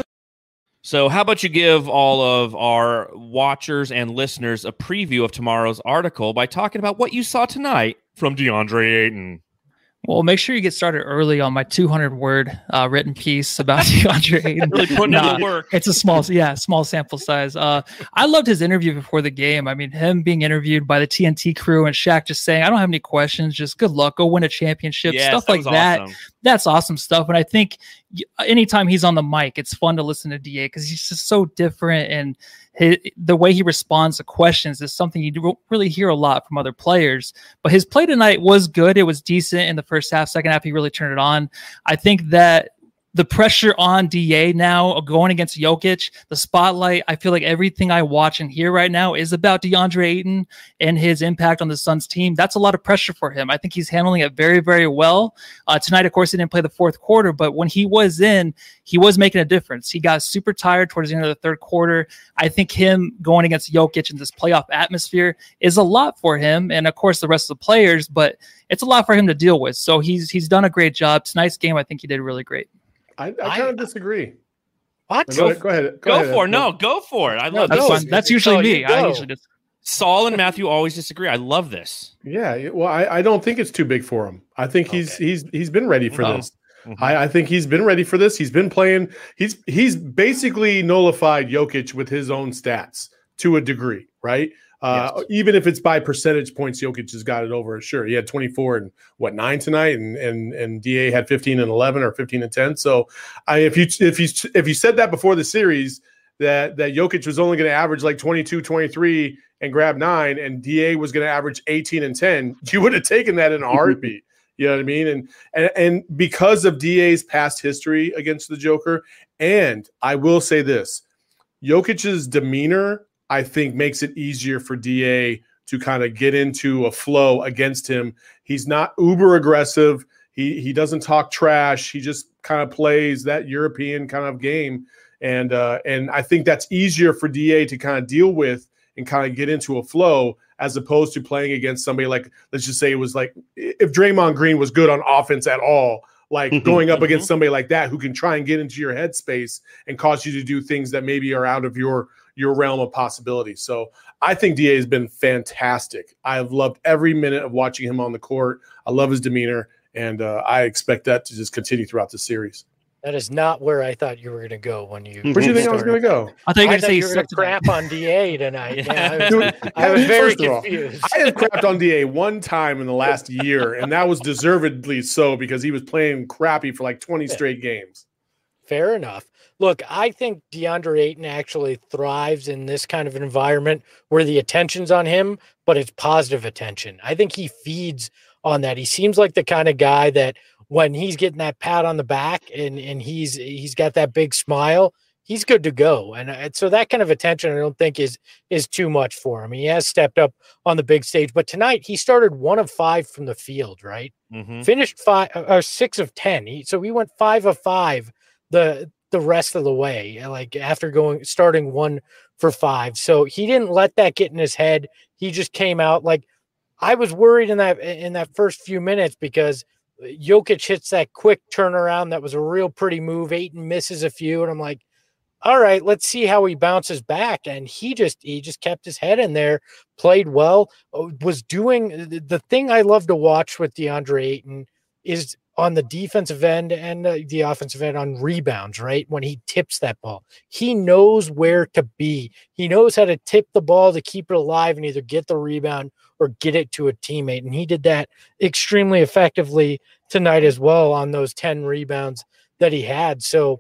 So how about you give all of our watchers and listeners a preview of tomorrow's article by talking about what you saw tonight from DeAndre Ayton? Well, make sure you get started early on my two hundred word uh, written piece about DeAndre Ayton. Really putting nah, in the work. It's a small, yeah, small sample size. Uh, I loved his interview before the game. I mean, him being interviewed by the T N T crew and Shaq just saying, I don't have any questions, just good luck, go win a championship, Yes, stuff that like was that. awesome. That's awesome stuff. And I think anytime he's on the mic, it's fun to listen to D A because he's just so different. And his, the way he responds to questions is something you don't really hear a lot from other players. But his play tonight was good. It was decent in the first half. Second half, he really turned it on. I think that the pressure on D A now going against Jokic, the spotlight, I feel like everything I watch and hear right now is about DeAndre Ayton and his impact on the Suns team. That's a lot of pressure for him. I think he's handling it very, very well. Uh, tonight, of course, he didn't play the fourth quarter, but when he was in, he was making a difference. He got super tired towards the end of the third quarter. I think him going against Jokic in this playoff atmosphere is a lot for him. And of course, the rest of the players, but it's a lot for him to deal with. So he's, he's done a great job. Tonight's game, I think he did really great. I, I kind of disagree. What? Go, go ahead. Go, ahead. for it. No, go for it. I love that's, this. fun. That's usually Oh, me. you I go. usually just Saul and Matthew always disagree. I love this. Yeah, well, I, I don't think it's too big for him. I think he's Okay. he's he's been ready for Oh. this. Mhm. I, I think he's been ready for this. He's been playing. He's he's basically nullified Jokic with his own stats to a degree, right? Uh, Yes. Even if it's by percentage points, Jokic has got it over. Sure, he had twenty-four and what nine tonight, and and and D A had fifteen and eleven or fifteen and ten. So, I if you if you if you said that before the series that that Jokic was only going to average like twenty-two, twenty-three and grab nine, and D A was going to average eighteen and ten, you would have taken that in a heartbeat. You know what I mean? And and and because of D A's past history against the Joker, and I will say this, Jokic's demeanor, I think, makes it easier for D A to kind of get into a flow against him. He's not uber aggressive. He he doesn't talk trash. He just kind of plays that European kind of game. And uh, and I think that's easier for D A to kind of deal with and kind of get into a flow as opposed to playing against somebody like, let's just say it was like if Draymond Green was good on offense at all, like going up against somebody like that who can try and get into your headspace and cause you to do things that maybe are out of your your realm of possibility. So I think D A has been fantastic. I've loved every minute of watching him on the court. I love his demeanor, and uh, I expect that to just continue throughout the series. That is not where I thought you were going to go when you. Where do you think I was going to go? I thought you were I going to thought say you you were going sucked to tonight. crap on D A tonight. Yeah, I was, Dude, I was very first of all, confused. I have crapped on D A one time in the last year, and that was deservedly so because he was playing crappy for like twenty straight games. Fair enough. Look, I think DeAndre Ayton actually thrives in this kind of environment where the attention's on him, but it's positive attention. I think he feeds on that. He seems like the kind of guy that when he's getting that pat on the back and, and he's he's got that big smile, he's good to go. And, and so that kind of attention I don't think is is too much for him. He has stepped up on the big stage, but tonight he started one of five from the field, right? Mm-hmm. Finished five or six of ten. He, so he went five of five the the rest of the way, like after going starting one for five. So he didn't let that get in his head. He just came out like I was worried in that in that first few minutes because Jokic hits that quick turnaround. That was a real pretty move. Ayton misses a few, and I'm like, all right, let's see how he bounces back. And he just he just kept his head in there, played well, was doing the thing I love to watch with DeAndre Ayton is on the defensive end and uh, the offensive end on rebounds, right? When he tips that ball, he knows where to be. He knows how to tip the ball to keep it alive and either get the rebound or get it to a teammate. And he did that extremely effectively tonight as well on those ten rebounds that he had. So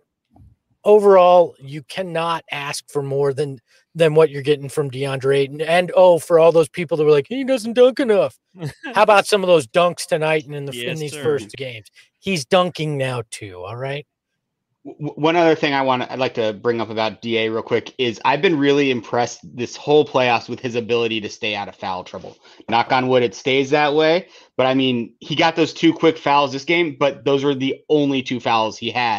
overall, you cannot ask for more than than what you're getting from DeAndre Ayton. And oh, for all those people that were like, he doesn't dunk enough. How about some of those dunks tonight and in the Yes, in these sir. first games? He's dunking now too. All right. W- One other thing I want to, I'd like to bring up about D A real quick is I've been really impressed this whole playoffs with his ability to stay out of foul trouble. Knock on wood, it stays that way. But I mean, he got those two quick fouls this game, but those were the only two fouls he had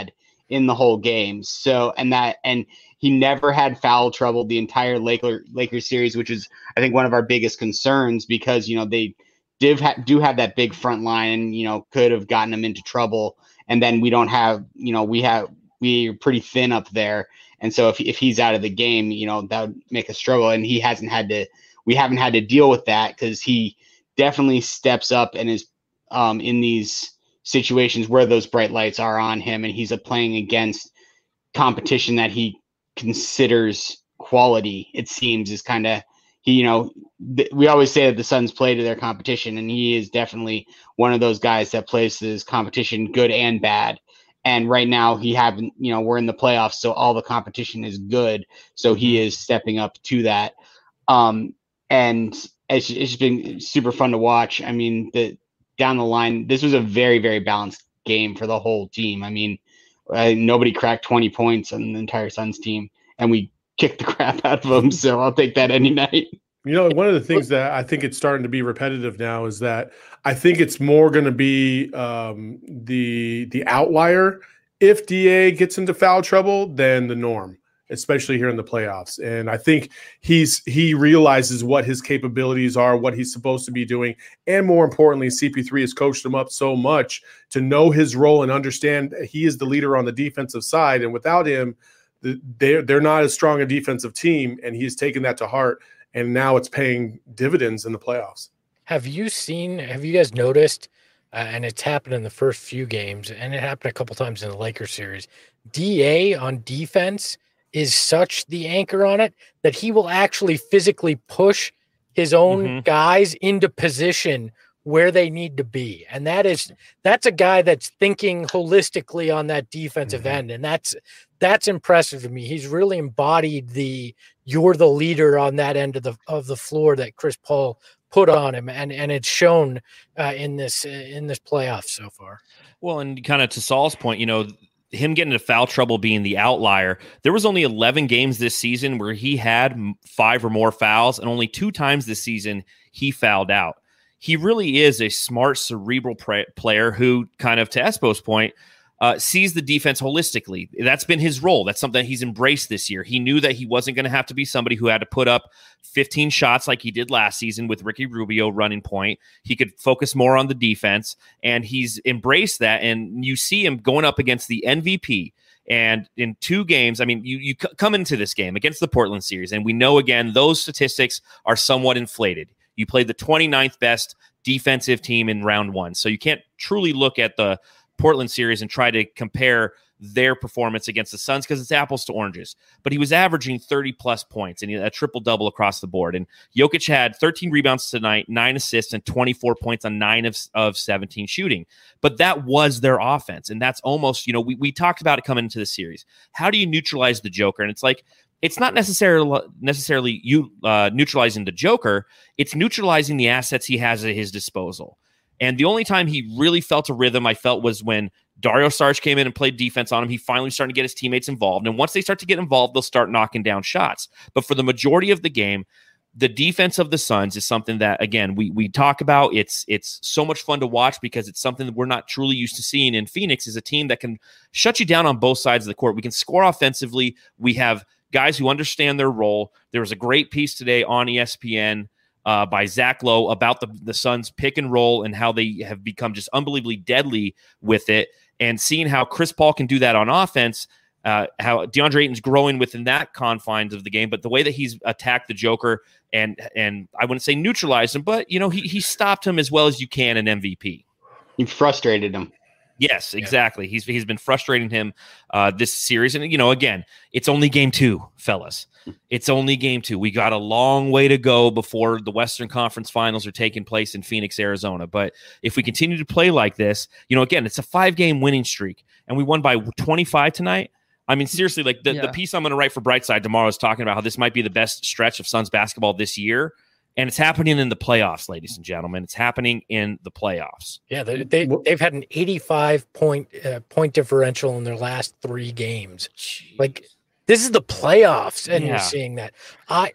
in the whole game. So, and that, and he never had foul trouble the entire Laker Lakers series, which is, I think, one of our biggest concerns because, you know, they did ha- do have that big front line and, you know, could have gotten them into trouble. And then we don't have, you know, we have, we're pretty thin up there. And so if, if he's out of the game, you know, that would make a struggle. And he hasn't had to, we haven't had to deal with that because he definitely steps up and is um, in these situations where those bright lights are on him. And he's a playing against competition that he considers quality, it seems, is kind of, he, you know, th- we always say that the Suns play to their competition, and he is definitely one of those guys that plays to his competition, good and bad. And right now he haven't, you know, we're in the playoffs, so all the competition is good. So he is stepping up to that. Um, and it's, it's been super fun to watch. I mean, the down the line, this was a very, very balanced game for the whole team. I mean, uh, nobody cracked twenty points on the entire Suns team, and we kicked the crap out of them. So I'll take that any night. You know, one of the things that I think it's starting to be repetitive now is that I think it's more going to be um, the the outlier if D A gets into foul trouble than the norm, especially here in the playoffs. And I think he's he realizes what his capabilities are, what he's supposed to be doing, and more importantly, C P three has coached him up so much to know his role and understand he is the leader on the defensive side. And without him, they're they're not as strong a defensive team, and he's taken that to heart. And now it's paying dividends in the playoffs. Have you seen, have you guys noticed, uh, and it's happened in the first few games, and it happened a couple times in the Lakers series, D A on defense is such the anchor on it that he will actually physically push his own mm-hmm. guys into position where they need to be. And that is, that's a guy that's thinking holistically on that defensive mm-hmm. end. And that's, that's impressive to me. He's really embodied the, you're the leader on that end of the, of the floor that Chris Paul put on him. And, and it's shown uh, in this, in this playoff so far. Well, and kind of to Saul's point, you know, him getting into foul trouble being the outlier, there was only eleven games this season where he had five or more fouls, and only two times this season he fouled out. He really is a smart, cerebral pre- player who, kind of to Espo's point, uh, sees the defense holistically. That's been his role. That's something that he's embraced this year. He knew that he wasn't going to have to be somebody who had to put up fifteen shots like he did last season with Ricky Rubio running point. He could focus more on the defense, and he's embraced that. And you see him going up against the M V P. And in two games, I mean, you, you c- come into this game against the Portland series, and we know, again, those statistics are somewhat inflated. You played the twenty-ninth best defensive team in round one. So you can't truly look at the Portland series and try to compare their performance against the Suns because it's apples to oranges. But he was averaging thirty plus points and a triple double across the board. And Jokic had thirteen rebounds tonight, nine assists, and twenty-four points on nine of, of seventeen shooting. But that was their offense. And that's almost, you know, we, we talked about it coming into the series. How do you neutralize the Joker? And it's like, it's not necessarily necessarily you uh, neutralizing the Joker. It's neutralizing the assets he has at his disposal. And the only time he really felt a rhythm, I felt, was when Dario Saric came in and played defense on him. He finally started to get his teammates involved. And once they start to get involved, they'll start knocking down shots. But for the majority of the game, the defense of the Suns is something that, again, we we talk about. It's it's so much fun to watch because it's something that we're not truly used to seeing in Phoenix, is a team that can shut you down on both sides of the court. We can score offensively. We have guys who understand their role. There was a great piece today on E S P N uh, by Zach Lowe about the, the Suns pick and roll and how they have become just unbelievably deadly with it. And seeing how Chris Paul can do that on offense, uh, how DeAndre Ayton's growing within that confines of the game, but the way that he's attacked the Joker and and I wouldn't say neutralized him, but you know he he stopped him as well as you can in M V P. You frustrated him. Yes, exactly. Yeah. He's he's been frustrating him uh, this series, and you know, again, it's only game two, fellas. It's only game two. We got a long way to go before the Western Conference Finals are taking place in Phoenix, Arizona. But if we continue to play like this, you know, again, it's a five-game winning streak, and we won by twenty-five tonight. I mean, seriously, like the, yeah. the piece I'm going to write for Brightside tomorrow is talking about how this might be the best stretch of Suns basketball this year. And it's happening in the playoffs, ladies and gentlemen. It's happening in the playoffs. Yeah, they, they, they've had an eighty-five point uh, point differential in their last three games. Jeez. Like, this is the playoffs, and yeah. you're seeing that. I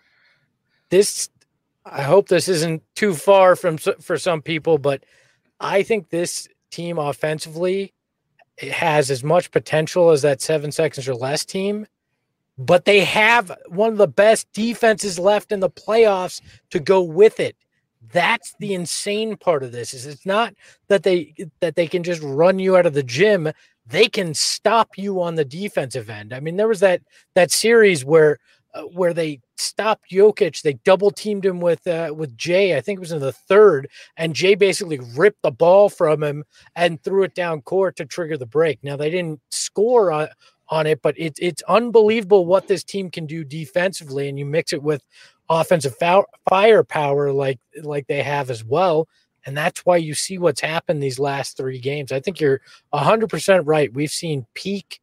this I hope this isn't too far from for some people, but I think this team offensively it has as much potential as that seven seconds or less team, but they have one of the best defenses left in the playoffs to go with it. That's the insane part of this. Is it's not that they that they can just run you out of the gym. They can stop you on the defensive end. I mean, there was that that series where uh, where they stopped Jokic. They double teamed him with uh, with Jay. I think it was in the third, and Jay basically ripped the ball from him and threw it down court to trigger the break. Now they didn't score on on it, but it's it's unbelievable what this team can do defensively, and you mix it with offensive foul, firepower like like they have as well, and that's why you see what's happened these last three games. I think you're one hundred percent right. We've seen peak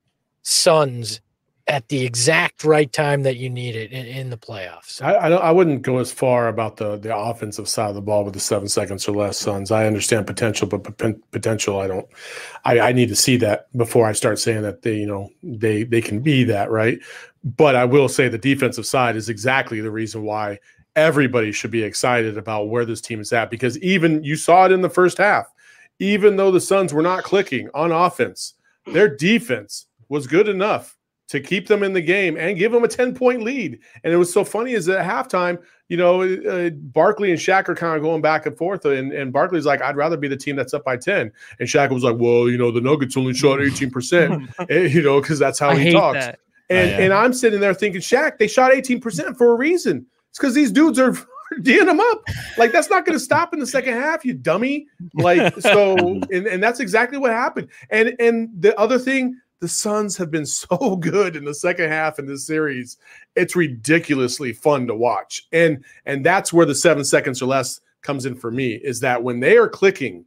Suns at the exact right time that you need it in, in the playoffs. I, I, don't, I wouldn't go as far about the the offensive side of the ball with the seven seconds or less Suns. I understand potential, but p- potential, I don't. I, I need to see that before I start saying that they, you know, they they can be that, right? But I will say the defensive side is exactly the reason why everybody should be excited about where this team is at, because even you saw it in the first half, even though the Suns were not clicking on offense, their defense was good enough to keep them in the game and give them a ten-point lead. And it was so funny is at halftime, you know, uh, Barkley and Shaq are kind of going back and forth, and, and Barkley's like, I'd rather be the team that's up by ten. And Shaq was like, well, you know, the Nuggets only shot eighteen percent, you know, because that's how I he hate talks. That. And, oh, yeah. and I'm sitting there thinking, Shaq, they shot eighteen percent for a reason. It's because these dudes are D'ing them up. Like, that's not going to stop in the second half, you dummy. Like, so, and, and that's exactly what happened. And and the other thing, the Suns have been so good in the second half in this series. It's ridiculously fun to watch. And and that's where the seven seconds or less comes in for me, is that when they are clicking,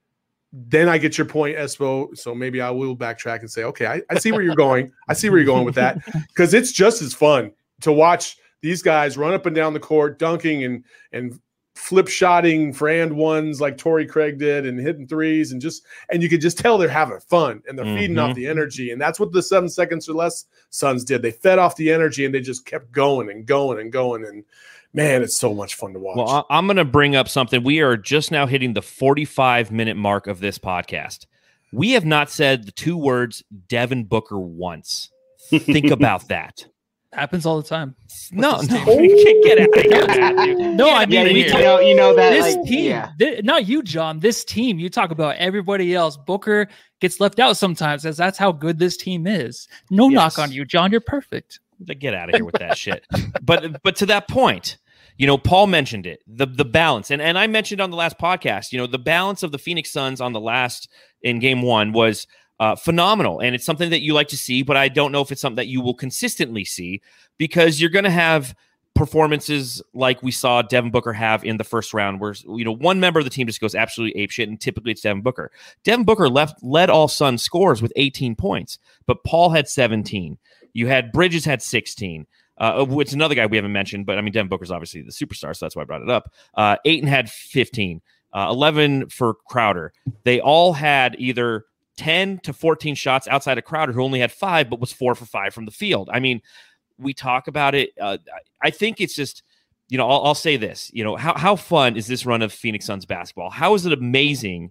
then I get your point, Espo. So maybe I will backtrack and say, okay, I, I see where you're going. I see where you're going with that, because it's just as fun to watch these guys run up and down the court, dunking and and flip shotting for and ones like Torrey Craig did, and hitting threes, and just and you can just tell they're having fun and they're mm-hmm. feeding off the energy. And that's what the seven seconds or less Suns did. They fed off the energy and they just kept going and going and going. And man, it's so much fun to watch. Well, I'm going to bring up something. We are just now hitting the forty-five minute mark of this podcast. We have not said the two words Devin Booker once. Think about that. Happens all the time. No, no, get out of here. No, I mean, yeah, we you, talk, know, you know that this like, team, yeah. th- not you, John. This team, you talk about everybody else. Booker gets left out sometimes, as that's how good this team is. No yes. knock on you, John. You're perfect. Get out of here with that shit. But but to that point, you know, Paul mentioned it, the the balance, and and I mentioned on the last podcast, you know, the balance of the Phoenix Suns on the last in game one was uh, phenomenal, and it's something that you like to see. But I don't know if it's something that you will consistently see, because you're going to have performances like we saw Devin Booker have in the first round, where, you know, one member of the team just goes absolutely apeshit, and typically it's Devin Booker. Devin Booker left led all Suns scores with eighteen points, but Paul had seventeen. You had Bridges had sixteen. Uh, it's another guy we haven't mentioned, but I mean, Devin Booker's obviously the superstar, so that's why I brought it up. Uh, Ayton had fifteen, uh, eleven for Crowder. They all had either ten to fourteen shots outside of Crowder, who only had five, but was four for five from the field. I mean, we talk about it. Uh, I think it's just, you know, I'll, I'll say this, you know, how, how fun is this run of Phoenix Suns basketball? How is it amazing?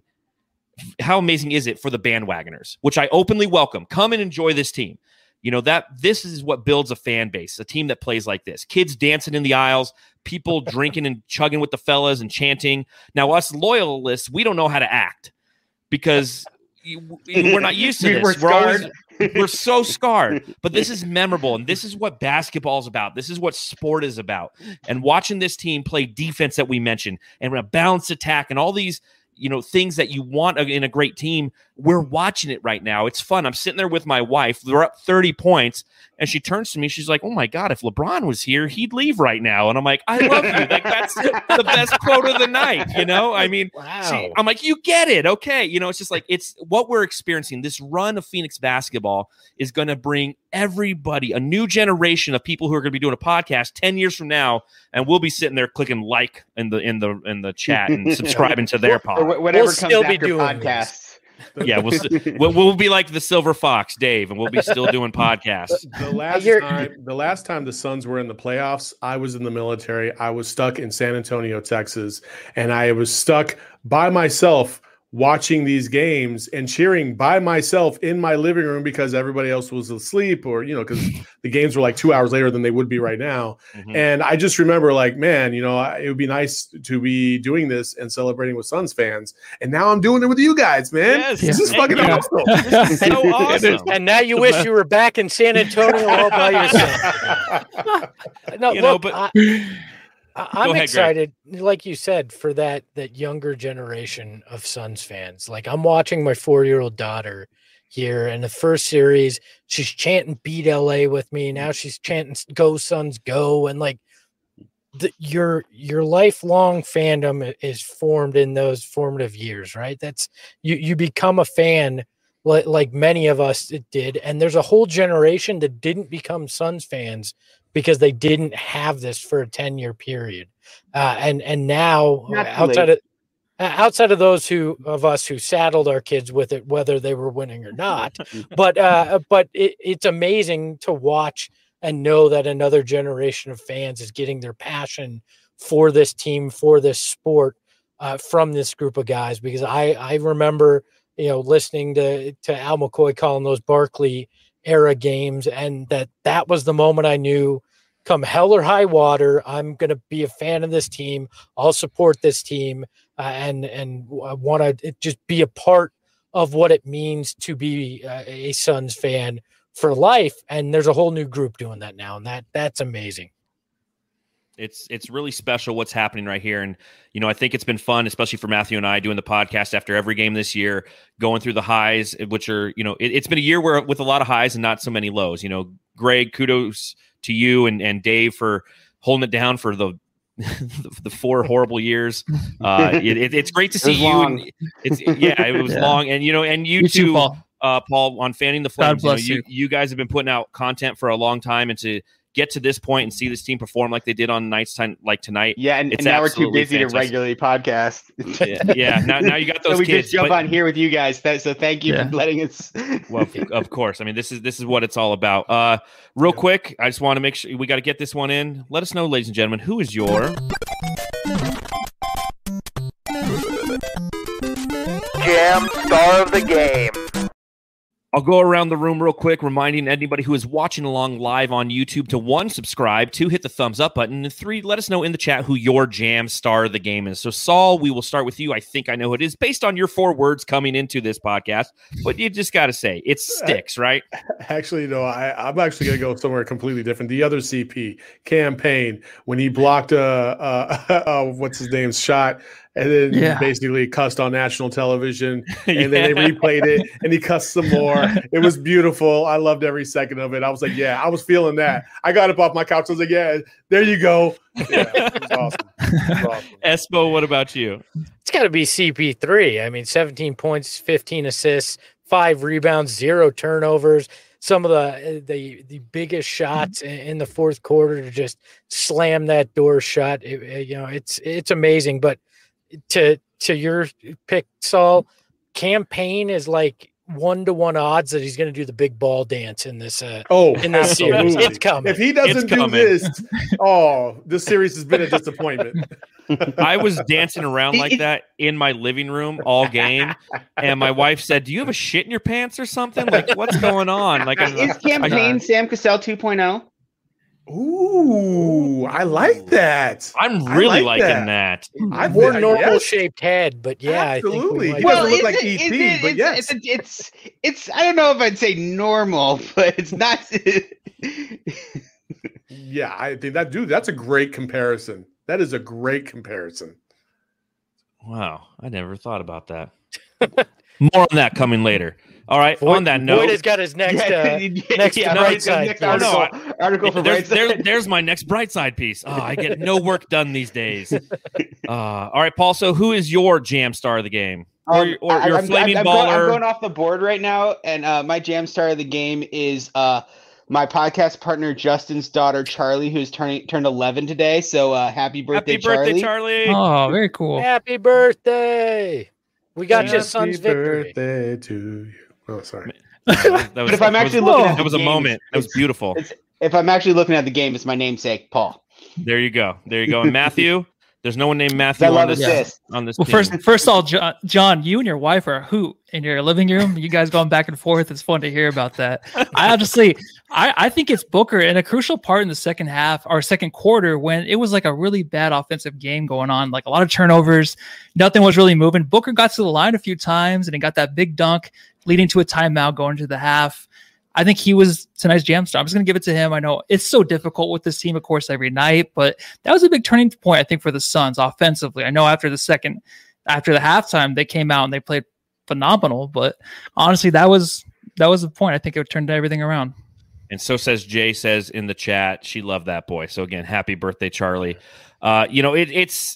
How amazing is it for the bandwagoners, which I openly welcome? Come and enjoy this team. You know, that this is what builds a fan base, a team that plays like this. Kids dancing in the aisles, people drinking and chugging with the fellas and chanting. Now, us loyalists, we don't know how to act, because you, we're not used to this. We're, we're always we're so scarred. But this is memorable, and this is what basketball is about. This is what sport is about. And watching this team play defense that we mentioned, and a balanced attack, and all these, you know, things that you want in a great team, we're watching it right now. It's fun. I'm sitting there with my wife. We're up thirty points, and she turns to me. She's like, "Oh my God, if LeBron was here, he'd leave right now." And I'm like, "I love you. Like, that's the best quote of the night." You know, I mean, wow. she, I'm like, "You get it. Okay." You know, it's just like, it's what we're experiencing. This run of Phoenix basketball is going to bring everybody, a new generation of people who are going to be doing a podcast ten years from now, and we'll be sitting there clicking like in the, in the, in the chat and subscribing to their pod. Or whatever We'll comes still be after doing podcasts. Yeah, we'll, we'll we'll be like the Silver Fox, Dave, and we'll be still doing podcasts. The last time, the last time the Suns were in the playoffs, I was in the military. I was stuck in San Antonio, Texas, and I was stuck by myself watching these games and cheering by myself in my living room because everybody else was asleep, or, you know, because the games were like two hours later than they would be right now. Mm-hmm. And I just remember like, man, you know, it would be nice to be doing this and celebrating with Suns fans. And now I'm doing it with you guys, man. Yes. This is fucking yeah. awesome. This is so awesome. And now you wish you were back in San Antonio all by yourself. No, you look, know, but I, I'm ahead, excited, Greg. Like you said, for that that younger generation of Suns fans. Like, I'm watching my four-year-old daughter here, and the first series, she's chanting "Beat L A" with me. Now she's chanting "Go Suns, go!" And like, the, your your lifelong fandom is formed in those formative years, right? That's you. You become a fan, like like many of us did, and there's a whole generation that didn't become Suns fans because they didn't have this for a ten-year period, uh, and and now Not outside of outside of those who of us who saddled our kids with it, whether they were winning or not, but uh, but it, it's amazing to watch and know that another generation of fans is getting their passion for this team, for this sport, uh, from this group of guys. Because I I remember, you know, listening to to Al McCoy calling those Barkley era games, and that that was the moment I knew, come hell or high water, I'm going to be a fan of this team. I'll support this team, uh, and and I want to just be a part of what it means to be uh, a Suns fan for life. And there's a whole new group doing that now, and that that's amazing. It's it's really special what's happening right here. And, you know, I think it's been fun, especially for Matthew and I, doing the podcast after every game this year, going through the highs, which are, you know, it, it's been a year where with a lot of highs and not so many lows. You know, Greg, kudos to you and, and Dave for holding it down for the the, the four horrible years. Uh, it, it, it's great to see you. And it's yeah, it was yeah. long. And, you know, and you, you too, too Paul. Uh, Paul, on Fanning the Flames. God bless you, know, you. you. You guys have been putting out content for a long time, and to get to this point and see this team perform like they did on nights time like tonight. Yeah, and, and now we're too busy fantastic. to regularly podcast. yeah, yeah. Now, now you got those. So we kids, just jump but, on here with you guys. So thank you yeah. for letting us. Well, of course. I mean, this is this is what it's all about. Uh, real quick, I just want to make sure we got to get this one in. Let us know, ladies and gentlemen, who is your Jam Star of the Game? I'll go around the room real quick, reminding anybody who is watching along live on YouTube to, one, subscribe, two, hit the thumbs up button, and three, let us know in the chat who your Jam Star of the Game is. So, Saul, we will start with you. I think I know who it is based on your four words coming into this podcast, but you just got to say, it sticks, right? Actually, no, I, I'm actually going to go somewhere completely different. The other C P, campaign, when he blocked, uh, uh, uh, what's his name's shot, and then yeah. basically cussed on national television, and yeah. then they replayed it, and he cussed some more. It was beautiful. I loved every second of it. I was like, yeah, I was feeling that. I got up off my couch. I was like, yeah, there you go. Yeah, it was awesome. It was awesome. Espo, what about you? It's got to be C P three. I mean, seventeen points, fifteen assists, five rebounds, zero turnovers. Some of the the the biggest shots in the fourth quarter to just slam that door shut. It, you know, it's it's amazing, but. To to your pick, Saul, campaign is like one to one odds that he's going to do the big ball dance in this. Uh, oh, in this series, it's coming. If he doesn't do this, oh, this series has been a disappointment. I was dancing around like that in my living room all game, and my wife said, "Do you have a shit in your pants or something? Like, what's going on?" Like, is I, campaign I, Sam Cassell two point oh? Ooh, I like that. I'm really like liking that. that. I've more normal yes. shaped head, but yeah, absolutely. I think we he well, doesn't look like it, E T, it, but it's, yes, it's, it's it's. I don't know if I'd say normal, but it's not. Yeah, I think that dude. That's a great comparison. That is a great comparison. Wow, I never thought about that. More on that coming later. All right. Boyd, on that note, Boyd has got his next uh, next yeah, bright side next article, oh, no, article for there's, bright there's, there's my next bright side piece. Oh, I get no work done these days. Uh, all right, Paul. So, who is your Jam Star of the game, or, um, or your I'm, flaming I'm, I'm baller? Going, I'm going off the board right now, and uh, my Jam Star of the game is uh, my podcast partner Justin's daughter Charlie, who's turning turned eleven today. So, uh, happy birthday, happy birthday, Charlie! Charlie! Oh, very cool. Happy birthday! We got happy your son's victory. Birthday to you. Oh, sorry. That was, that was, but if I'm actually was, looking at that was the a game, moment. That was beautiful. If I'm actually looking at the game, it's my namesake, Paul. There you go. There you go. And Matthew, There's no one named Matthew I on love this, assist. on this Well, team. first, first of all, John, John, you and your wife are a hoot in your living room. You guys going back and forth. It's fun to hear about that. I honestly, I, I think it's Booker in a crucial part in the second half or second quarter when it was like a really bad offensive game going on, like a lot of turnovers. Nothing was really moving. Booker got to the line a few times and he got that big dunk leading to a timeout going to the half. I think he was tonight's jam star. I'm just going to give it to him. I know it's so difficult with this team, of course, every night, but that was a big turning point, I think, for the Suns offensively. I know after the second, after the halftime, they came out and they played phenomenal, but honestly, that was that was the point. I think it turned everything around. And so says Jay says in the chat, she loved that boy. So again, happy birthday, Charlie. Uh, you know, it, it's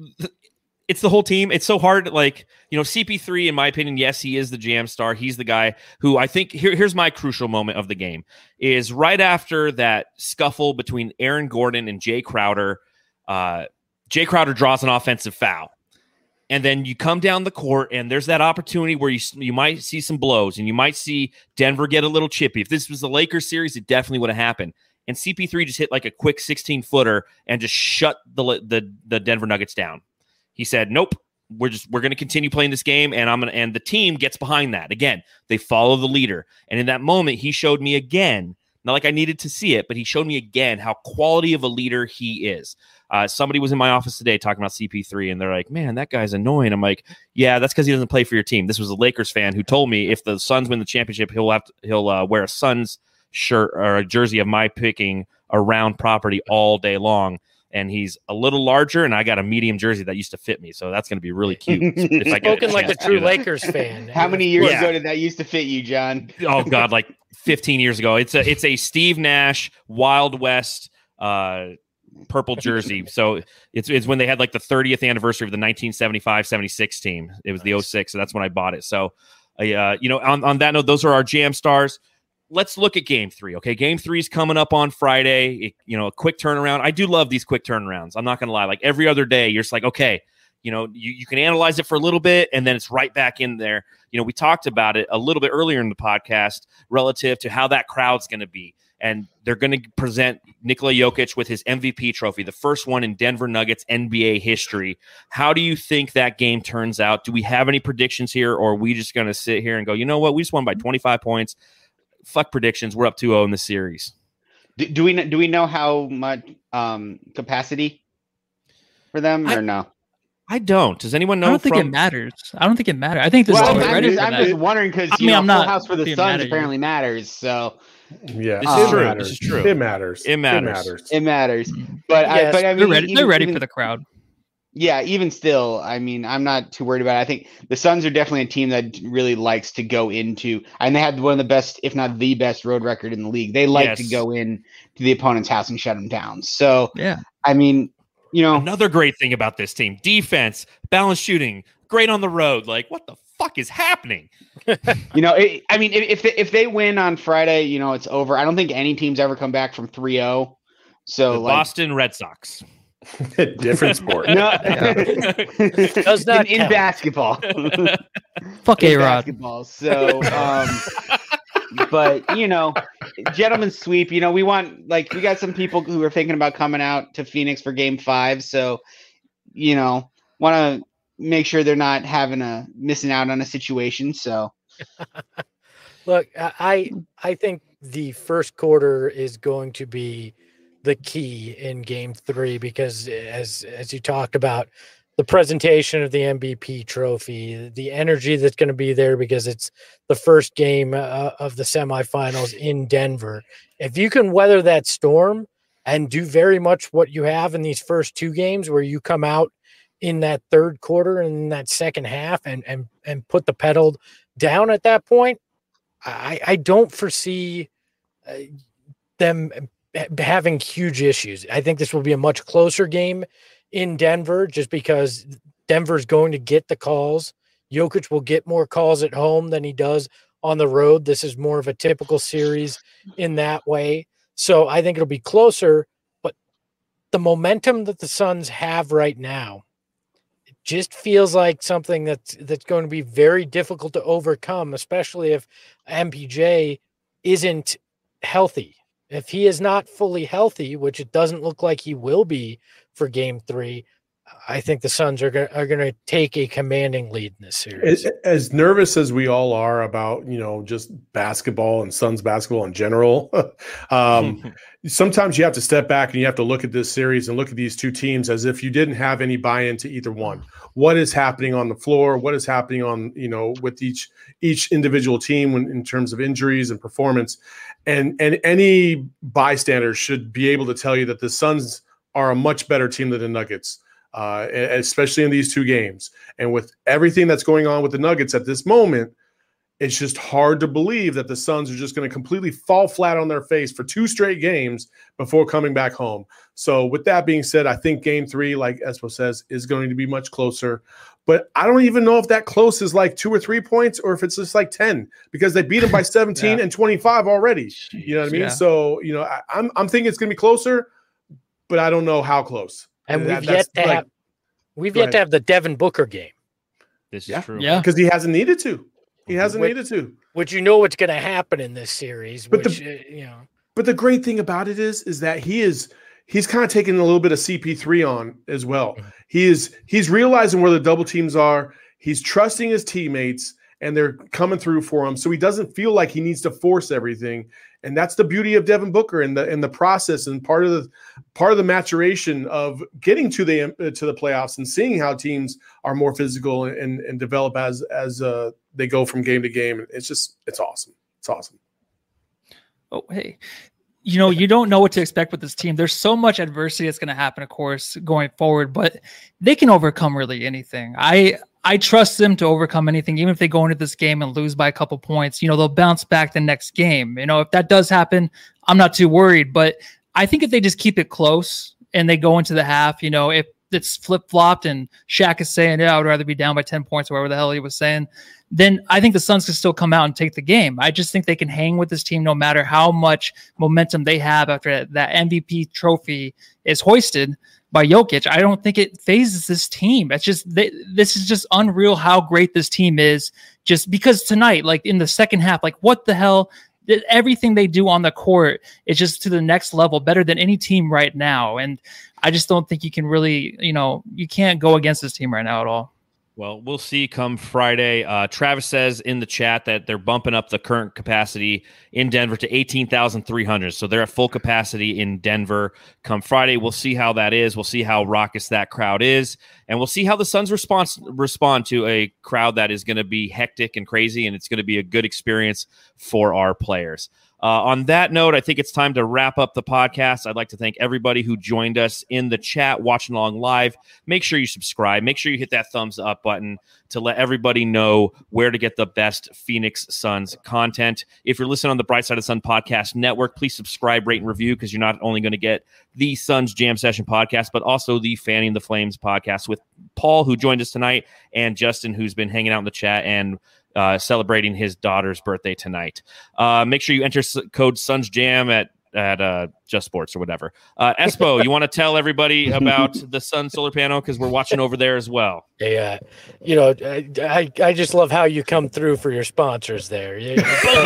it's the whole team. It's so hard. Like, you know, C P three, in my opinion, yes, he is the jam star. He's the guy who I think here, here's my crucial moment of the game is right after that scuffle between Aaron Gordon and Jay Crowder. Uh, Jay Crowder draws an offensive foul. And then you come down the court and there's that opportunity where you you might see some blows and you might see Denver get a little chippy. If this was the Lakers series, it definitely would have happened. And C P three just hit like a quick sixteen footer and just shut the the, the Denver Nuggets down. He said, nope, we're just we're going to continue playing this game, and I'm going to and the team gets behind that. Again, they follow the leader. And in that moment, he showed me again, not like I needed to see it, but he showed me again how quality of a leader he is. Uh, somebody was in my office today talking about C P three, and they're like, man, that guy's annoying. I'm like, yeah, that's because he doesn't play for your team. This was a Lakers fan who told me if the Suns win the championship, he'll have to, he'll uh, wear a Suns shirt or a jersey of my picking around property all day long. And he's a little larger, and I got a medium jersey that used to fit me, so that's going to be really cute. If I get Spoken like a true Lakers fan. How many years Yeah. ago did that used to fit you, John? Oh God, like fifteen years ago. It's a it's a Steve Nash Wild West uh, purple jersey. So it's it's when they had like the thirtieth anniversary of the nineteen seventy-five seventy-six team. It was the oh six, so that's when I bought it. So, uh, you know, on on that note, those are our jam stars. Let's look at game three. Okay. Game three is coming up on Friday. It, you know, a quick turnaround. I do love these quick turnarounds. I'm not going to lie. Like every other day, you're just like, okay, you know, you, you can analyze it for a little bit and then it's right back in there. You know, we talked about it a little bit earlier in the podcast relative to how that crowd's going to be. And they're going to present Nikola Jokic with his M V P trophy, the first one in Denver Nuggets N B A history. How do you think that game turns out? Do we have any predictions here, or are we just going to sit here and go, you know what, we just won by twenty-five points. Fuck predictions. We're up two oh in the series. Do, do we kn- do we know how much um, capacity for them or I, no? I don't. Does anyone know? I don't think from... it matters. I don't think it matters. I think this Well, is I'm, ready just, for I'm that. just wondering because I you mean, know, I'm Full not House for the being mad Suns at you. apparently matters. So Yeah, This is it true. matters. This is true. It matters. It matters. It matters. it matters. But I, Yes, but I mean, They're ready. even- They're ready even- for the crowd. Yeah, even still, I mean, I'm not too worried about it. I think the Suns are definitely a team that really likes to go into, and they had one of the best, if not the best, road record in the league. They like Yes. to go in to the opponent's house and shut them down. So, Yeah. I mean, you know, Another great thing about this team: defense, balanced shooting, great on the road. Like, what the fuck is happening? you know, it, I mean, if if they, if they win on Friday, you know, it's over. I don't think any team's ever come back from three oh. So, The like, Boston Red Sox. Different sport. no, Does not in, in count. basketball. Fuck in A Rod. basketball. So, um, but you know, gentlemen's sweep. You know, we want like we got some people who are thinking about coming out to Phoenix for Game Five. So, you know, want to make sure they're not having a missing out on a situation. So, Look, I I think the first quarter is going to be the key in game three because as as you talked about, the presentation of the M V P trophy, the energy that's going to be there because it's the first game uh, of the semifinals in Denver. If you can weather that storm and do very much what you have in these first two games where you come out in that third quarter and in that second half and and and put the pedal down at that point, I, I don't foresee uh, them having huge issues. I think this will be a much closer game in Denver just because Denver's going to get the calls. Jokic will get more calls at home than he does on the road. This is more of a typical series in that way. So I think it'll be closer, but the momentum that the Suns have right now, it just feels like something that's, that's going to be very difficult to overcome, especially if M P J isn't healthy. If he is not fully healthy, which it doesn't look like he will be for game three, I think the Suns are going are going to take a commanding lead in this series. As, as nervous as we all are about, you know, just basketball and Suns basketball in general, um, sometimes you have to step back and you have to look at this series and look at these two teams as if you didn't have any buy-in to either one. What is happening on the floor? What is happening on, you know, with each each individual team when, in terms of injuries and performance? And and any bystander should be able to tell you that the Suns are a much better team than the Nuggets. Uh, especially in these two games. And with everything that's going on with the Nuggets at this moment, it's just hard to believe that the Suns are just going to completely fall flat on their face for two straight games before coming back home. So with that being said, I think game three, like Espo says, is going to be much closer. But I don't even know if that close is like two or three points or if it's just like ten, because they beat them by seventeen yeah. and twenty-five already. You know what I mean? Yeah. So, you know, I, I'm, I'm thinking it's going to be closer, but I don't know how close. And we've that, yet to like, have we've yet ahead. to have the Devin Booker game. This is yeah. true. Yeah. Because he hasn't needed to. He hasn't which, needed to. Which you know what's going to happen in this series. But which, the, uh, you know. But the great thing about it is, is that he is he's kind of taking a little bit of C P three on as well. Mm-hmm. He is he's realizing where the double teams are. He's trusting his teammates, and they're coming through for him. So he doesn't feel like he needs to force everything. And that's the beauty of Devin Booker and the in the process and part of the part of the maturation of getting to the uh, to the playoffs and seeing how teams are more physical and and develop as as uh, they go from game to game. It's just it's awesome. It's awesome. Oh, hey. You know, you don't know what to expect with this team. There's so much adversity that's going to happen, of course, going forward, but they can overcome really anything. I I trust them to overcome anything, even if they go into this game and lose by a couple points. You know, they'll bounce back the next game. You know, if that does happen, I'm not too worried. But I think if they just keep it close and they go into the half, you know, if it's flip-flopped and Shaq is saying, yeah, I would rather be down by ten points or whatever the hell he was saying, then I think the Suns can still come out and take the game. I just think they can hang with this team no matter how much momentum they have after that M V P trophy is hoisted by Jokic. I don't think it phases this team. It's just they, this is just unreal how great this team is. Just because tonight, like in the second half, like what the hell? Everything they do on the court is just to the next level, better than any team right now. And I just don't think you can really, you know, you can't go against this team right now at all. Well, we'll see come Friday. Uh, Travis says in the chat that they're bumping up the current capacity in Denver to eighteen thousand three hundred. So they're at full capacity in Denver come Friday. We'll see how that is. We'll see how raucous that crowd is. And we'll see how the Suns respond, respond to a crowd that is going to be hectic and crazy, and it's going to be a good experience for our players. Uh, on that note, I think it's time to wrap up the podcast. I'd like to thank everybody who joined us in the chat, watching along live. Make sure you subscribe. Make sure you hit that thumbs up button to let everybody know where to get the best Phoenix Suns content. If you're listening on the Bright Side of the Sun Podcast Network, please subscribe, rate, and review, because you're not only going to get the Suns Jam Session podcast, but also the Fanning the Flames podcast with Paul, who joined us tonight, and Justin, who's been hanging out in the chat and Uh, celebrating his daughter's birthday tonight. Uh, make sure you enter s- code SunsJam at at uh, Just Sports or whatever. Uh, Espo, you want to tell everybody about the Sun Solar Panel, because we're watching over there as well. Yeah, you know, I, I I just love how you come through for your sponsors there. Yeah.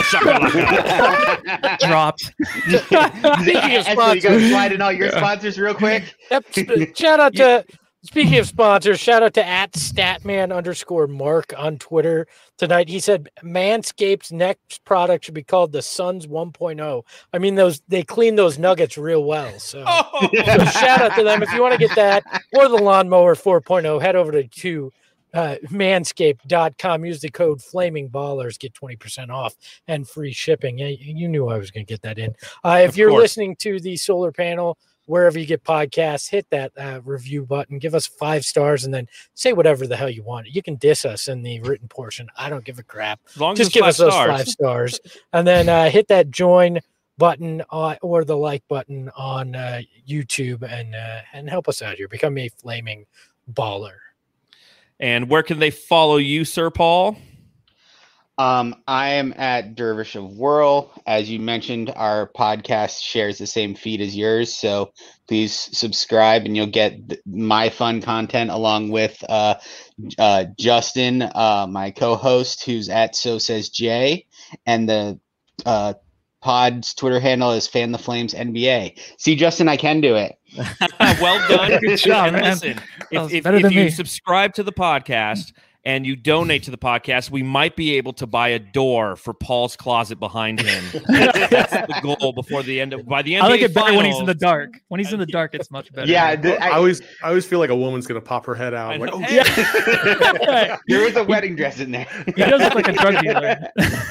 Dropped. Speaking of sponsors, you guys slide in all your sponsors real quick. Yep. Shout out to. Speaking of sponsors, shout out to at Statman underscore Mark on Twitter tonight. He said Manscaped's next product should be called the Suns one point oh. I mean, those they clean those nuggets real well. So, oh. so shout out to them. If you want to get that or the Lawnmower four point oh, head over to, to uh, manscaped dot com. Use the code Flaming Ballers, get twenty percent off and free shipping. Yeah, you knew I was going to get that in. Uh, if of you're course. listening to the solar panel, wherever you get podcasts, hit that uh, review button, give us five stars, and then say whatever the hell you want. You can diss us in the written portion. I don't give a crap. As long as Just give us stars. those five stars. And then uh, hit that join button uh, or the like button on uh, YouTube and uh, and help us out here. Become a flaming baller. And where can they follow you, Sir Paul? Um, I am at Dervish of Whirl. As you mentioned, our podcast shares the same feed as yours, so please subscribe, and you'll get th- my fun content along with uh, uh, Justin, uh, my co-host, who's at So Says Jay, and the uh, pod's Twitter handle is Fan the Flames N B A. See, Justin, I can do it. well done. Good job, and man. listen, That was if, if, better if than you me. subscribe to the podcast and you donate to the podcast, we might be able to buy a door for Paul's closet behind him. That's the goal before the end of by the end. I like it better when he's in the dark. When he's in the dark, it's much better. Yeah, the, I, I, always, I always feel like a woman's gonna pop her head out. I Like, know. oh, Hey. there is a wedding dress in there. He does look like a drug dealer.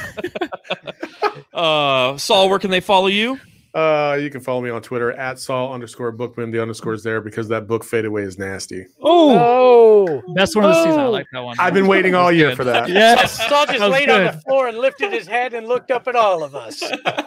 uh, Saul, where can they follow you? Uh, you can follow me on Twitter at Saul underscore Bookman. The underscore is there because that book fadeaway is nasty. Oh, Oh, best one of the season. I Oh. like that one. I've been waiting all year for that. Yes, Saul just that was laid on good. the floor and lifted his head and looked up at all of us.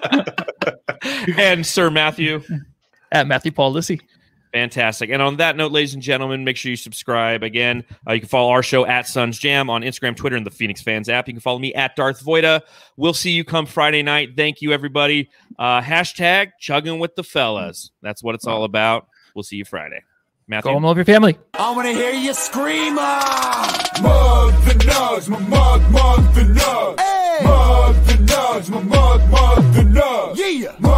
And Sir Matthew. At Matthew Paul Lissy. Fantastic. And on that note, ladies and gentlemen, make sure you subscribe. Again, uh, you can follow our show at Suns Jam on Instagram, Twitter, and the Phoenix Fans app. You can follow me at Darth Voida. We'll see you come Friday night. Thank you, everybody. Uh, hashtag chugging with the fellas. That's what it's all about. We'll see you Friday. Matthew. Go home, love your family. I wanna hear you scream, ah! Mug the nugs, my mug, mug the nugs. Mug the nugs, my mug, mug the nugs. Yeah!